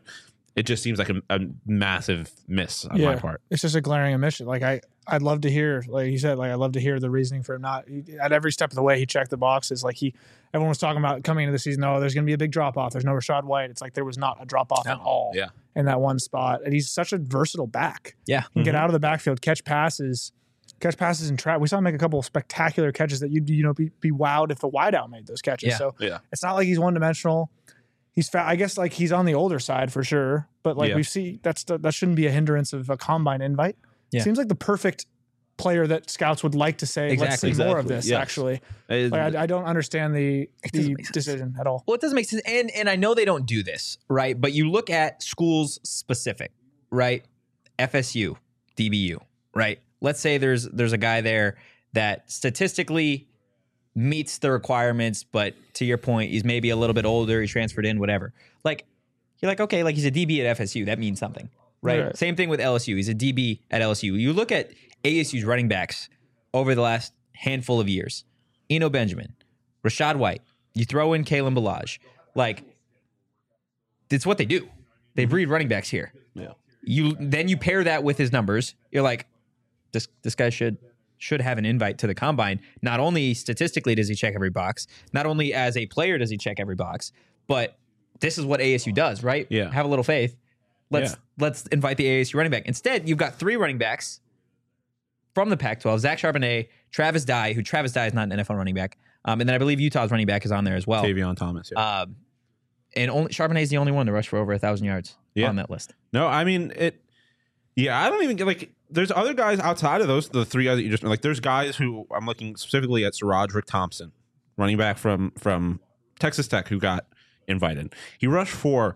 it just seems like a massive miss on my part. It's just a glaring omission. Like I'd love to hear, like you said, like I'd love to hear the reasoning for him not. At every step of the way, he checked the boxes. Like everyone was talking about coming into the season. Oh, there's going to be a big drop off. There's no Rashad White. It's like there was not a drop off at all. Yeah. In that one spot, and he's such a versatile back. Yeah, he can get out of the backfield, catch passes and trap. We saw him make a couple of spectacular catches that you'd be wowed if the wideout made those catches. Yeah. So it's not like he's one dimensional. He's fat. I guess like he's on the older side for sure, but like we see that shouldn't be a hindrance of a combine invite. Yeah. Seems like the perfect player that scouts would like to say, let's see more of this. Yes. Actually, like, I don't understand the decision at all. Well, it doesn't make sense, and I know they don't do this, right? But you look at schools specific, right? FSU, DBU, right? Let's say there's a guy there that statistically meets the requirements, but to your point, he's maybe a little bit older, he transferred in, whatever. Like, you're like, okay, like he's a DB at FSU. That means something, right? Same thing with LSU. He's a DB at LSU. You look at ASU's running backs over the last handful of years. Eno Benjamin, Rashad White. You throw in Kalen Ballage. Like, it's what they do. They breed running backs here. Yeah. You pair that with his numbers. You're like, this guy should have an invite to the combine. Not only statistically does he check every box, not only as a player does he check every box, but this is what ASU does, right? Yeah. Have a little faith. Let's invite the ASU running back. Instead, you've got 3 running backs from the Pac-12: Zach Charbonnet, Travis Dye, who Travis Dye is not an NFL running back, and then I believe Utah's running back is on there as well. Tavion Thomas. Yeah. And Charbonnet is the only one to rush for over 1,000 yards on that list. No, I mean it. Yeah, I don't even get like. There's other guys outside of the 3 guys that you just like. There's guys who I'm looking specifically at. SaRodorick Thompson, running back from Texas Tech, who got invited. He rushed for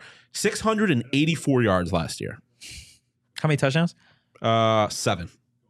684 yards last year. How many touchdowns? 7.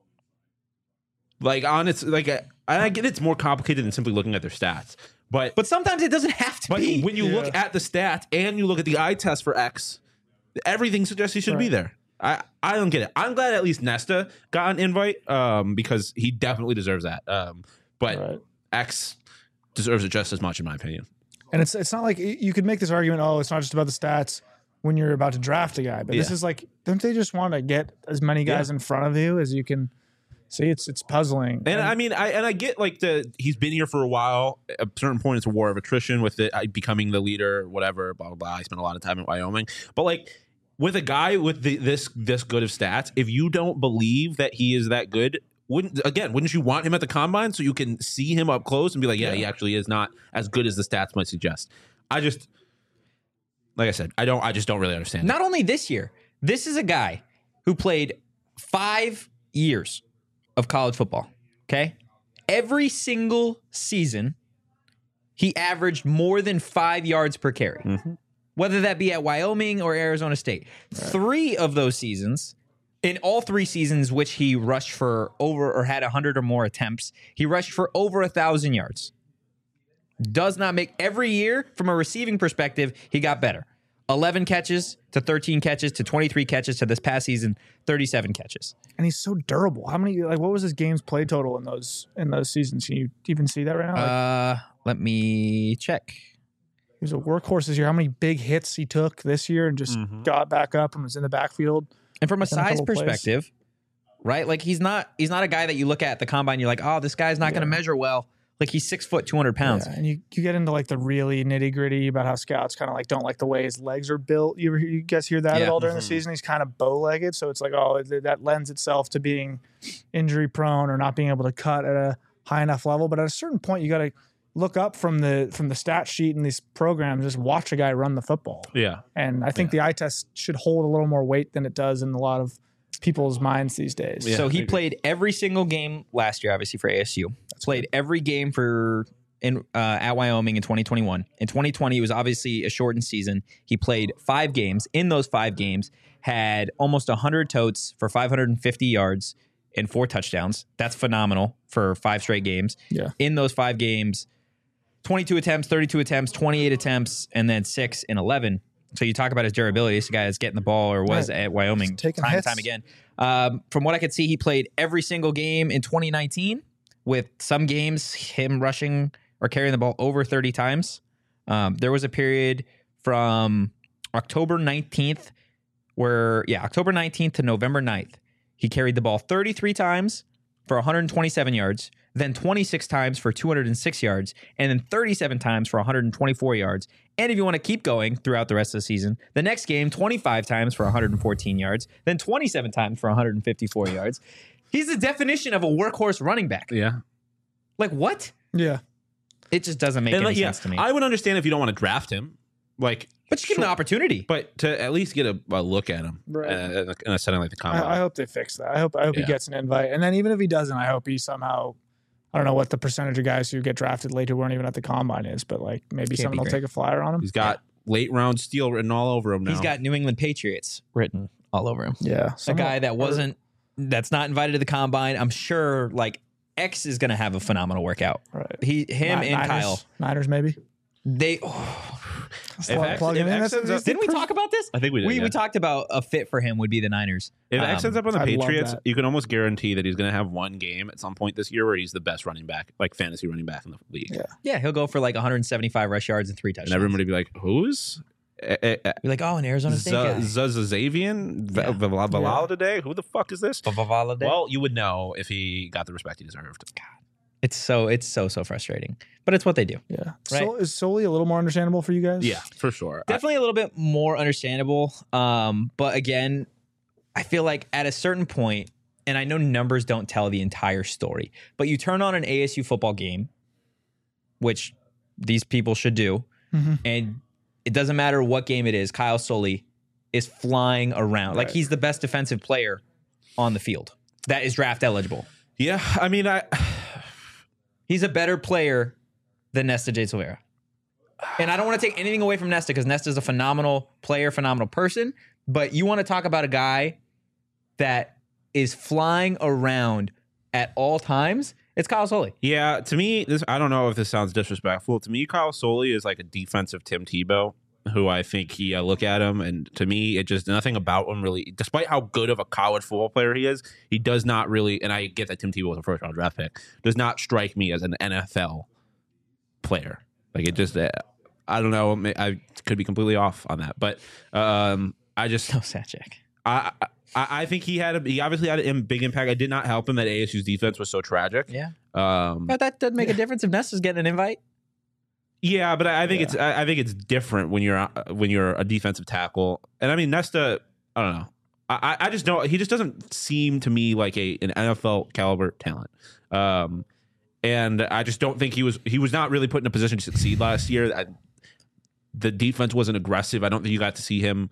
Like on its like, I get it's more complicated than simply looking at their stats, but sometimes it doesn't have to be. When you look at the stats and you look at the eye test for X, everything suggests he should be there. I don't get it. I'm glad at least Nesta got an invite because he definitely deserves that. But X deserves it just as much, in my opinion. And it's not like you could make this argument. Oh, it's not just about the stats when you're about to draft a guy, but this is like, don't they just want to get as many guys in front of you as you can? See, it's puzzling. And I mean, I get like he's been here for a while. At a certain point, it's a war of attrition with it becoming the leader, whatever, blah, blah, blah. I spent a lot of time in Wyoming. But like with a guy with this good of stats, if you don't believe that he is that good, wouldn't you want him at the combine so you can see him up close and be like, yeah, he actually is not as good as the stats might suggest? Like I said, I just don't really understand. Not only this year, this is a guy who played 5 years of college football, okay? Every single season, he averaged more than 5 yards per carry, whether that be at Wyoming or Arizona State. 3 of those seasons, in all 3 seasons which he rushed for over or had 100 or more attempts, he rushed for over 1,000 yards. Does not make every year from a receiving perspective, he got better. 11 catches to 13 catches to 23 catches to this past season, 37 catches. And he's so durable. How many, like, what was his games play total in those seasons? Can you even see that right now? Let me check. He was a workhorse this year. How many big hits he took this year and just got back up and was in the backfield? And from a size perspective, right? Like he's not a guy that you look at the combine, you're like, oh, this guy's not going to measure well. Like he's 6 foot, 200 pounds. Yeah, and you get into like the really nitty gritty about how scouts kind of like don't like the way his legs are built. You guys hear that at all during the season? He's kind of bow legged. So it's like, oh, that lends itself to being injury prone or not being able to cut at a high enough level. But at a certain point, you got to look up from the stat sheet in these programs, just watch a guy run the football. Yeah. And I think the eye test should hold a little more weight than it does in a lot of people's minds these days. So he played every single game last year, obviously for ASU. Played every game at Wyoming in 2021. In 2020, it was obviously a shortened season. He played 5 games. In those 5 games, had almost 100 totes for 550 yards and 4 touchdowns. That's phenomenal for 5 straight games. Yeah. In those 5 games, 22 attempts, 32 attempts, 28 attempts, and then 6 and 11. So you talk about his durability. This guy is getting the ball, or was at Wyoming time and time again. From what I could see, he played every single game in 2019, with some games him rushing or carrying the ball over 30 times. There was a period from October 19th October 19th to November 9th, he carried the ball 33 times for 127 yards, then 26 times for 206 yards, and then 37 times for 124 yards. And if you want to keep going throughout the rest of the season, the next game, 25 times for 114 yards, then 27 times for 154 yards. He's the definition of a workhorse running back. Yeah. Like, what? Yeah. It just doesn't make any sense to me. I would understand if you don't want to draft him. Like, but you give him an opportunity. But to at least get a look at him Right. in a setting like the combine. I hope they fix that. I hope he gets an invite. And then even if he doesn't, I hope he somehow, I don't know what the percentage of guys who get drafted late who weren't even at the combine is, but like maybe someone will take a flyer on him. He's got late round steal written all over him now. He's got New England Patriots written all over him. Yeah. A guy that's not invited to the combine. I'm sure like X is going to have a phenomenal workout. Right. And Kyle. Niners maybe. They Plug him in. didn't we talk about this? I think we did. We talked about a fit for him would be the Niners. If X ends up on the I love Patriots, that. you can almost guarantee that he's going to have one game at some point this year where he's the best running back, like fantasy running back in the league. Yeah, he'll go for like 175 rush yards and 3 touchdowns. And everybody be like, who's? You're like, oh, an Arizona State guy. Zazavian Valal today? Who the fuck is this? Well, you would know if he got the respect he deserved. It's so frustrating, but it's what they do. Yeah. Right. So is Sully a little more understandable for you guys? Yeah, for sure. Definitely a little bit more understandable. But again, I feel like at a certain point, and I know numbers don't tell the entire story, but you turn on an ASU football game, which these people should do, and it doesn't matter what game it is, Kyle Sully is flying around. Like he's the best defensive player on the field that is draft eligible. Yeah, I mean, He's a better player than Nesta J. Silvera. And I don't want to take anything away from Nesta because Nesta's a phenomenal player, phenomenal person. But you want to talk about a guy that is flying around at all times, it's Kyle Sully. Yeah, to me, I don't know if this sounds disrespectful. To me, Kyle Sully is like a defensive Tim Tebow, who I think I look at him, and to me, it just nothing about him really, despite how good of a college football player he is, he does not really, and I get that Tim Tebow was a first round draft pick, does not strike me as an NFL player. Like it just, I don't know, I could be completely off on that, but I just, No, Satchek. I think he obviously had a big impact. I did not help him that ASU's defense was so tragic. Yeah. But that doesn't make a difference if Nesta's getting an invite. Yeah, but I think it's different when you're a defensive tackle. And I mean Nesta, I don't know. I just don't. He just doesn't seem to me like an NFL caliber talent. And I just don't think he was not really put in a position to succeed last year. The defense wasn't aggressive. I don't think you got to see him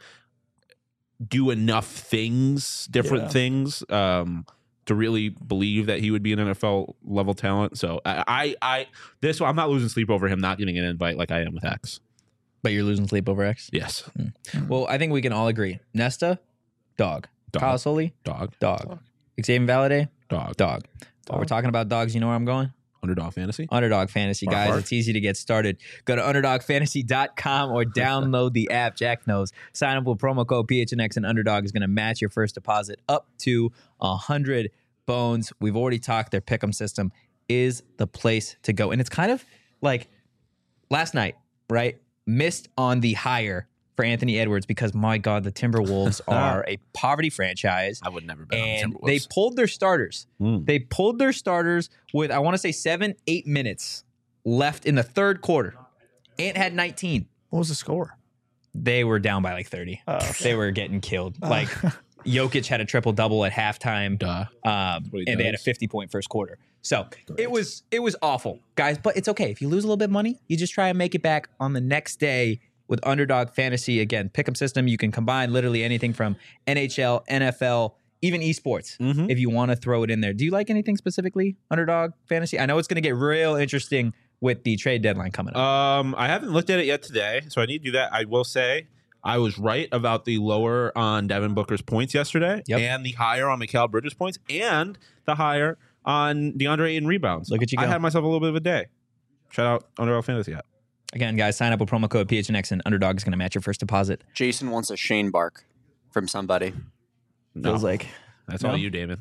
do enough things, different things, to really believe that he would be an NFL level talent. So I'm not losing sleep over him not getting an invite like I am with X. But you're losing sleep over X? Yes. Well, I think we can all agree. Nesta, dog. Kyle Sully, dog. Xavier Valade, Dog. While we're talking about dogs, you know where I'm going? Underdog Fantasy. Underdog Fantasy, guys. Bark. It's easy to get started. Go to underdogfantasy.com or download the app. Jack knows. Sign up with promo code PHNX and Underdog is going to match your first deposit up to 100 bones. We've already talked. Their pick'em system is the place to go. And it's kind of like last night, right? Missed on the hire for Anthony Edwards because, my God, the Timberwolves are a poverty franchise. I would never bet on the And Timberwolves. they pulled their starters. They pulled their starters with, I want to say, 7-8 minutes left in the third quarter. Ant had 19. What was the score? They were down by like 30. They were getting killed. Like Jokic had a triple double at halftime. what he and they had a does. 50-point first quarter. So it was awful, guys. But it's okay. If you lose a little bit of money, you just try and make it back on the next day with Underdog Fantasy. Again, pick'em system. You can combine literally anything from NHL, NFL, even esports if you want to throw it in there. Do you like anything specifically, Underdog Fantasy? I know it's going to get real interesting with the trade deadline coming up. I haven't looked at it yet today, so I need to do that. I will say I was right about the lower on Devin Booker's points yesterday, and the higher on Mikal Bridges' points, and the higher on DeAndre Ayton rebounds. Look at you go. I had myself a little bit of a day. Shout out Underdog Fantasy app. Again, guys, sign up with promo code PHNX and Underdog is going to match your first deposit. Jason wants a Shane bark from somebody. Feels like That's all you, David.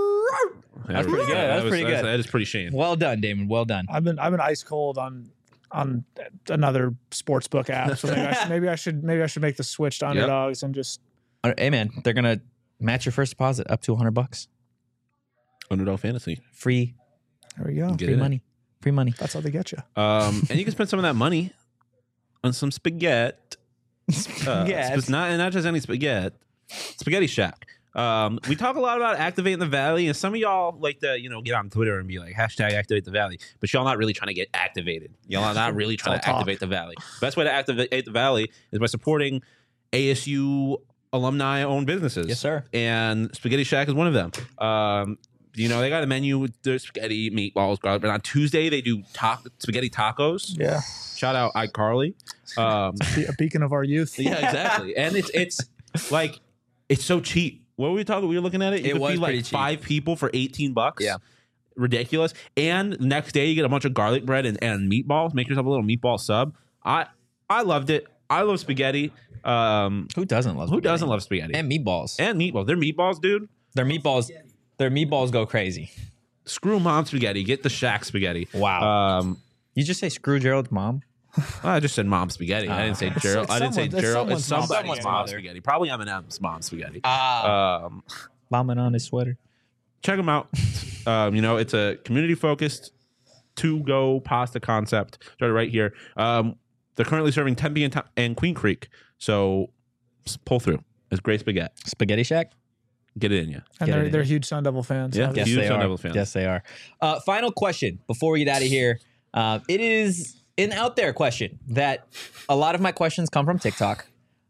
That's pretty good. That's pretty good. That is pretty Shane. Well done, Damon. Well done. I've been ice cold on on another sportsbook app. So maybe I should make the switch to underdogs and just. Hey man, they're gonna match your first deposit up to $100. Underdog fantasy. Free There we go. Get free it. money. Free money. That's how they get you. And you can spend some of that money on some spaghetti. Spaghetti. Not just any spaghetti. Spaghetti Shack. We talk a lot about activating the Valley, and some of y'all like to, get on Twitter and be like, #activate the Valley, but y'all not really trying to get activated. Y'all are not really trying to activate the Valley. Best way to activate the Valley is by supporting ASU alumni-owned businesses. Yes, sir. And Spaghetti Shack is one of them. They got a menu with the spaghetti, meatballs, garlic. But on Tuesday, they do spaghetti tacos. Yeah. Shout out iCarly. A beacon of our youth. Yeah, exactly. And it's like, it's so cheap. What were we talking? We were looking at it. You It could was feed pretty like cheap. 5 people for $18. Yeah. Ridiculous. And next day you get a bunch of garlic bread and meatballs. Make yourself a little meatball sub. I loved it. I love spaghetti. Who doesn't love? Who spaghetti? doesn't love spaghetti? And meatballs. And meatballs. They're meatballs, dude. Their meatballs go crazy. Screw mom spaghetti. Get the Shack spaghetti. Wow. You just say screw Gerald's mom? I just said mom spaghetti. I didn't say Gerald. I didn't say it's Gerald. It's someone's somebody's mom mother. spaghetti. Probably Eminem's mom spaghetti. Bombing on his sweater. Check them out. It's a community-focused to-go pasta concept. Started right here. They're currently serving Tempe and Queen Creek. So pull through. It's great spaghetti. Spaghetti Shack? Get it in you. And they're huge Sun Devil fans. Yeah. obviously. Huge they Sun are. Devil fans. Yes, they are. Final question before we get out of here. It is an out there question that a lot of my questions come from TikTok.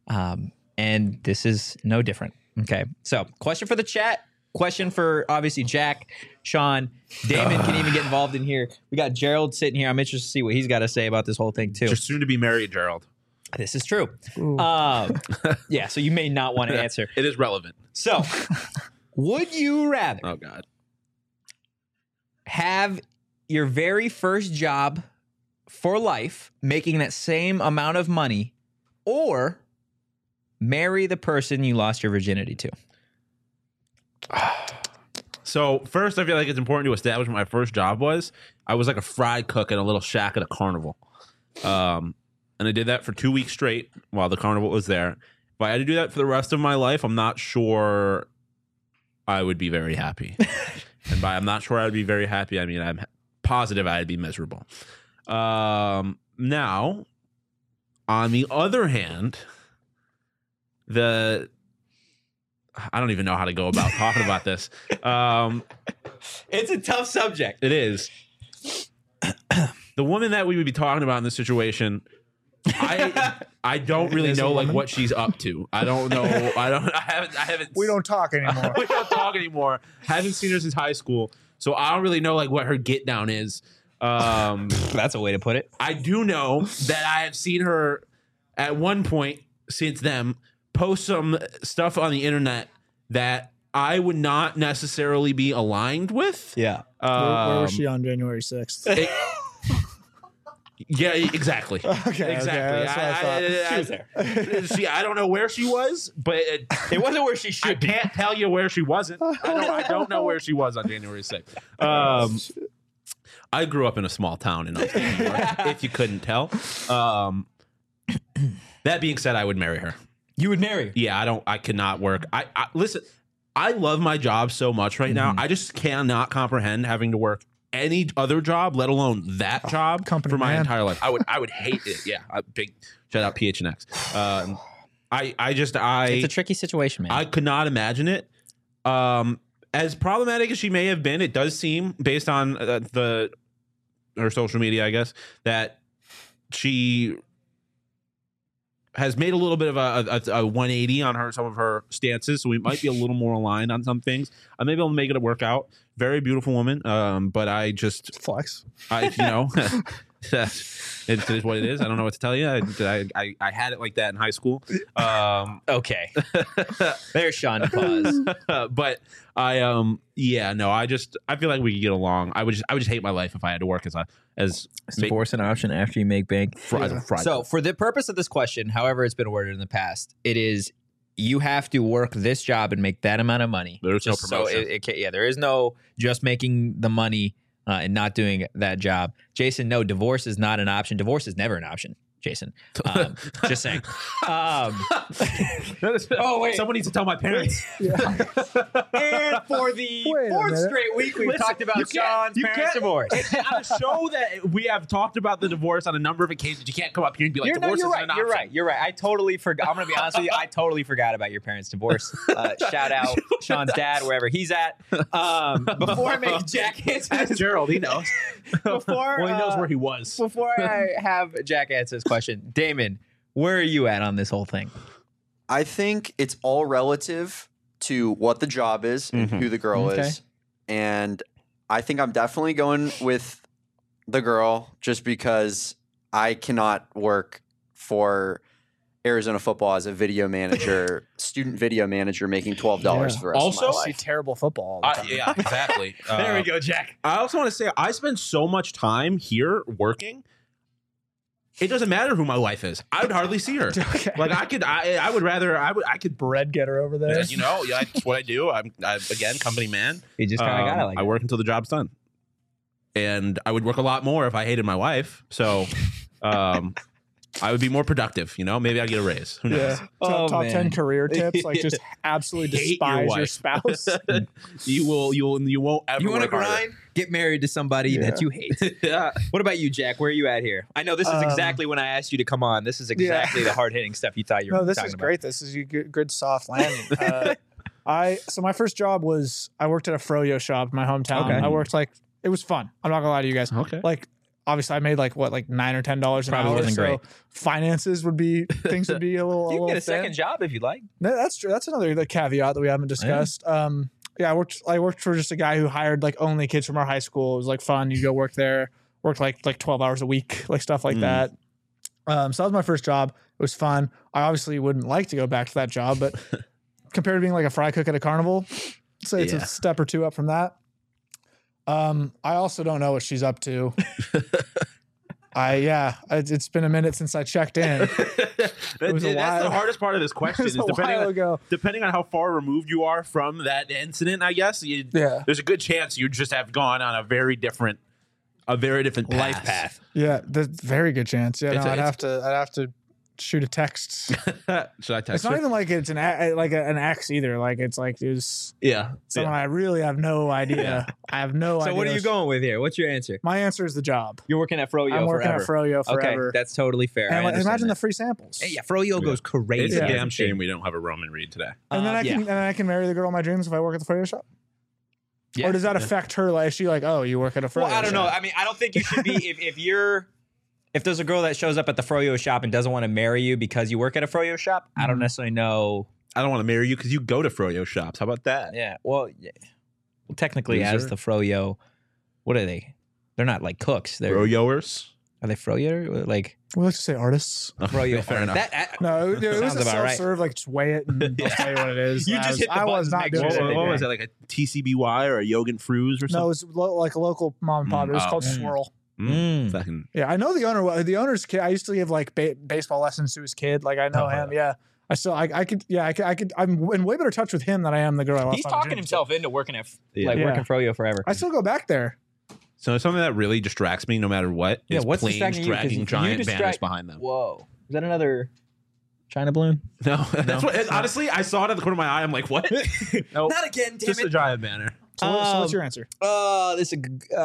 And this is no different. Okay. So, question for the chat. Question for obviously Jack, Sean, Damon can even get involved in here. We got Gerald sitting here. I'm interested to see what he's got to say about this whole thing too. You're soon to be married, Gerald. This is true. Ooh. Yeah. So you may not want to answer. It is relevant. So, would you rather Oh, God. have your very first job for life making that same amount of money or marry the person you lost your virginity to? So first, I feel like it's important to establish what my first job was. I was like a fried cook in a little shack at a carnival. And I did that for 2 weeks straight while the carnival was there. If I had to do that for the rest of my life, I'm not sure I would be very happy. And by I'm not sure I would be very happy, I mean I'm positive I'd be miserable. Now, on the other hand, I don't even know how to go about talking about this. It's a tough subject. It is. The woman that we would be talking about in this situation, I don't really Is a know like woman? what she's up to. I don't know. I haven't. We don't talk anymore. we don't talk anymore. Haven't seen her since high school, so I don't really know like what her get down is. That's a way to put it. I do know that I have seen her at one point since then post some stuff on the internet that I would not necessarily be aligned with. Yeah. Where was she on January 6th? Yeah, exactly. Okay, exactly. that's what I thought. She was there. See, I don't know where she was, but It wasn't where she I should be. can't tell you where she wasn't. I don't know where she was on January 6th. I grew up in a small town in upstate New York, if you couldn't tell. That being said, I would marry her. You would marry her. Yeah, I cannot work. I listen, I love my job so much right now. I just cannot comprehend having to work any other job, let alone that job company for my man. entire life. I would hate it. Yeah. A big shout out PHNX. It's a tricky situation, man. I could not imagine it. As problematic as she may have been, it does seem based on her social media, I guess, that she has made a little bit of a 180 on some of her stances, so we might be a little more aligned on some things. I may be able to make it work out. Very beautiful woman, but I just Flex. it is what it is. I don't know what to tell you. I had it like that in high school. Okay. There's Sean pause. But I feel like we could get along. I would just hate my life if I had to work as Divorce an option after you make bank. as a fried. So, for the purpose of this question, however it's been worded in the past, it is you have to work this job and make that amount of money. There's no Just so promotion. there is no just making the money and not doing that job. Jason, no, divorce is not an option. Divorce is never an option. Jason, just saying. Oh wait, someone needs to tell my parents. And for the fourth straight week, we've talked about Sean's parents' divorce. On a show that we have talked about the divorce on a number of occasions, you can't come up here and be like, divorce isn't an option. You're right. I totally forgot. I'm going to be honest with you. I totally forgot about your parents' divorce. Shout out Sean's dad, wherever he's at. Before I make Jack answer Ask Gerald, he knows. Before, he knows where he was. Before I have Jack answer this question, Damon, where are you at on this whole thing? I think it's all relative to what the job is and who the girl is. And I think I'm definitely going with the girl just because I cannot work for Arizona football as a video manager, student video manager making $12 for the rest of my Also, See life. terrible football all the time. Yeah, exactly. There we go, Jack. I also want to say I spend so much time here working. It doesn't matter who my wife is. I would hardly see her. Okay. Like I would rather I could Bread getter over there. you know, yeah, that's what I do. I'm again company man. You just kind of got it like I work until the job's done. And I would work a lot more if I hated my wife. So I would be more productive, you know? Maybe I'd get a raise. Who knows? Yeah. Oh, top man. 10 career tips. Like just absolutely Hate your despise your wife. spouse. You won't ever You want to work harder. grind? Get married to somebody that you hate. Yeah. What about you, Jack? Where are you at here? I know this is exactly when I asked you to come on. This is exactly the hard hitting stuff you thought you were No, this talking is about. great. This is a good soft landing. So my first job was I worked at a froyo shop in my hometown. Okay. I worked it was fun. I'm not gonna lie to you guys. Okay. Like obviously I made like $9 or $10 an Probably hour. wasn't So great. finances would be things would be a little. You can get a thin. second job if you'd like. No, that's true. That's another caveat that we haven't discussed. I worked for just a guy who hired like only kids from our high school. It was like fun. You go work there, worked like 12 hours a week, like stuff like that. So that was my first job. It was fun. I obviously wouldn't like to go back to that job, but compared to being like a fry cook at a carnival, I'd say it's a step or two up from that. I also don't know what she's up to. It's been a minute since I checked in. That's a while. the hardest part of this question is It was a while ago. depending on how far removed you are from that incident, I guess. There's a good chance you just have gone on a very different Life path. Yeah, there's a very good chance. Yeah, It's no, a- I'd have to shoot a text. Should I text It's not her? even like it's an ex either. Like it's like it was Yeah. someone I really have no idea. I have no idea. So what are you going with here? What's your answer? My answer is the job. You're working at Froyo I'm working forever. at Froyo forever. Okay, that's totally fair. and I like, understand imagine that. the free samples. Hey, yeah, Froyo goes crazy. It's a Yeah. damn shame we don't have a Roman Reed today. And then yeah. and then I can marry the girl of my dreams if I work at the Froyo shop. Yeah. Or does that affect her? Like, is she like, oh, you work at a Froyo Well, I don't know. shop? I mean, I don't think you should be if there's a girl that shows up at the Froyo shop and doesn't want to marry you because you work at a Froyo shop. I don't necessarily know. I don't want to marry you because you go to Froyo shops. How about that? Yeah. Well, technically, Loser. as the Froyo, what are they? They're not like cooks. They're Froyoers? Are they Froyo? Like We like to say artists. Froyo. Fair enough. No, it was Sounds a about right. self-serve. Like, just weigh it and I'll tell you what it is. You I just was- hit the I was buttons, not make doing sure it. that What was it, like a TCBY or a Yogan Fruz or No, it something? was like a local mom and pop. It was called Swirl. Fucking Yeah, I know the owner. The owner's kid. I used to give like baseball lessons to his kid. Like I know him. Yeah, I still. I could. Yeah, I could. I'm in way better touch with him than I am the girl I lost. He's on the talking gym. himself into working at Yeah. working Froyo forever. I still go back there. So something that really distracts me no matter what Yeah, is what's planes distracting you? 'Cause dragging you giant banners distract- behind them. Whoa, is that another China balloon? No, that's what. Honestly, I saw it at the corner of my eye. I'm like, what? No, Not again, damn just a it. giant banner. So what's your answer? This is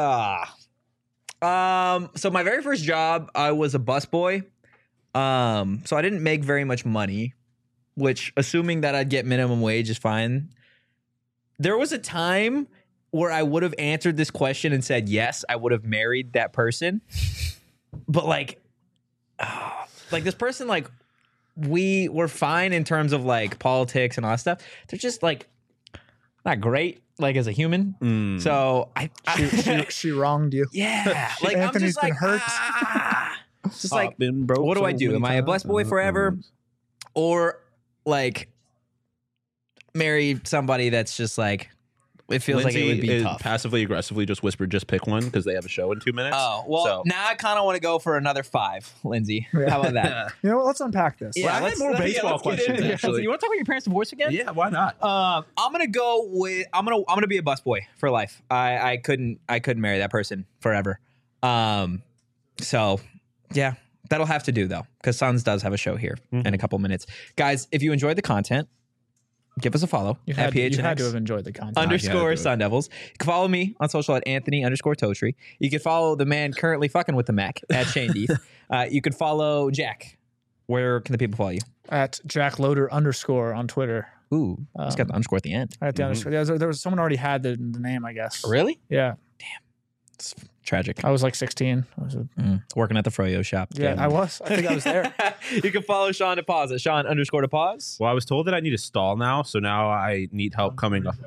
so my very first job, I was a busboy. So I didn't make very much money, which assuming that I'd get minimum wage is fine. There was a time where I would have answered this question and said yes, I would have married that person. But like this person, like we were fine in terms of like politics and all that stuff. They're just like not great, like as a human. So She wronged you. yeah, like Anthony's I'm just been like, hurt. just like, Been broke what do so I do? many Am I a times. busboy forever, or like marry somebody that's just like it feels like it would be tough. Passively aggressively just whispered, just pick one because they have a show in 2 minutes. Oh, well, So- now I kind of want to go for another 5, Lindsay. How about that? You know what? Let's unpack this. Well, I had more baseball let's get into questions, this. actually. You want to talk about your parents' divorce again? Yeah, why not? I'm gonna go with I'm gonna be a busboy for life. I couldn't marry that person forever. So yeah, that'll have to do though, because Suns does have a show here in a couple minutes. Guys, if you enjoyed the content, give us a follow You at had, you had to PHNX have enjoyed the content. underscore do it. Sun Devils. You can follow me on social at Anthony underscore Totri. You can follow the man currently fucking with the Mac at Shane Deeth. You can follow Jack. Where can the people follow you? At Jack Loader _ on Twitter. Ooh, he's got the underscore at the end. At the underscore. Yeah, there was someone already had the name, I guess. Really? Yeah. It's tragic. I was like 16. Working at the Froyo shop. Yeah, I was. I think I was there. You can follow Sean DePause at Sean underscore DePause. Well, I was told that I need to stall now, so now I need help coming up.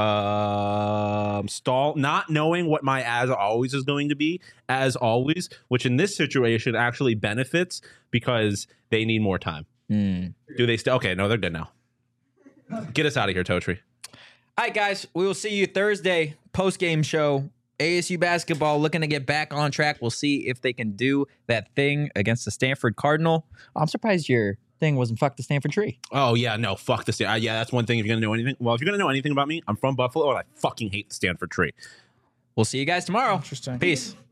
Stall, not knowing what my as always is going to be, as always, which in this situation actually benefits because they need more time. Do they still? Okay, no, they're good now. Get us out of here, Totri. All right, guys. We will see you Thursday, post-game show. ASU basketball looking to get back on track. We'll see if they can do that thing against the Stanford Cardinal. I'm surprised your thing wasn't fuck the Stanford tree. Oh, yeah, no, fuck the Stanford. Yeah, that's one thing if you're going to know anything. Well, if you're going to know anything about me, I'm from Buffalo, and I fucking hate the Stanford tree. We'll see you guys tomorrow. Interesting. Peace.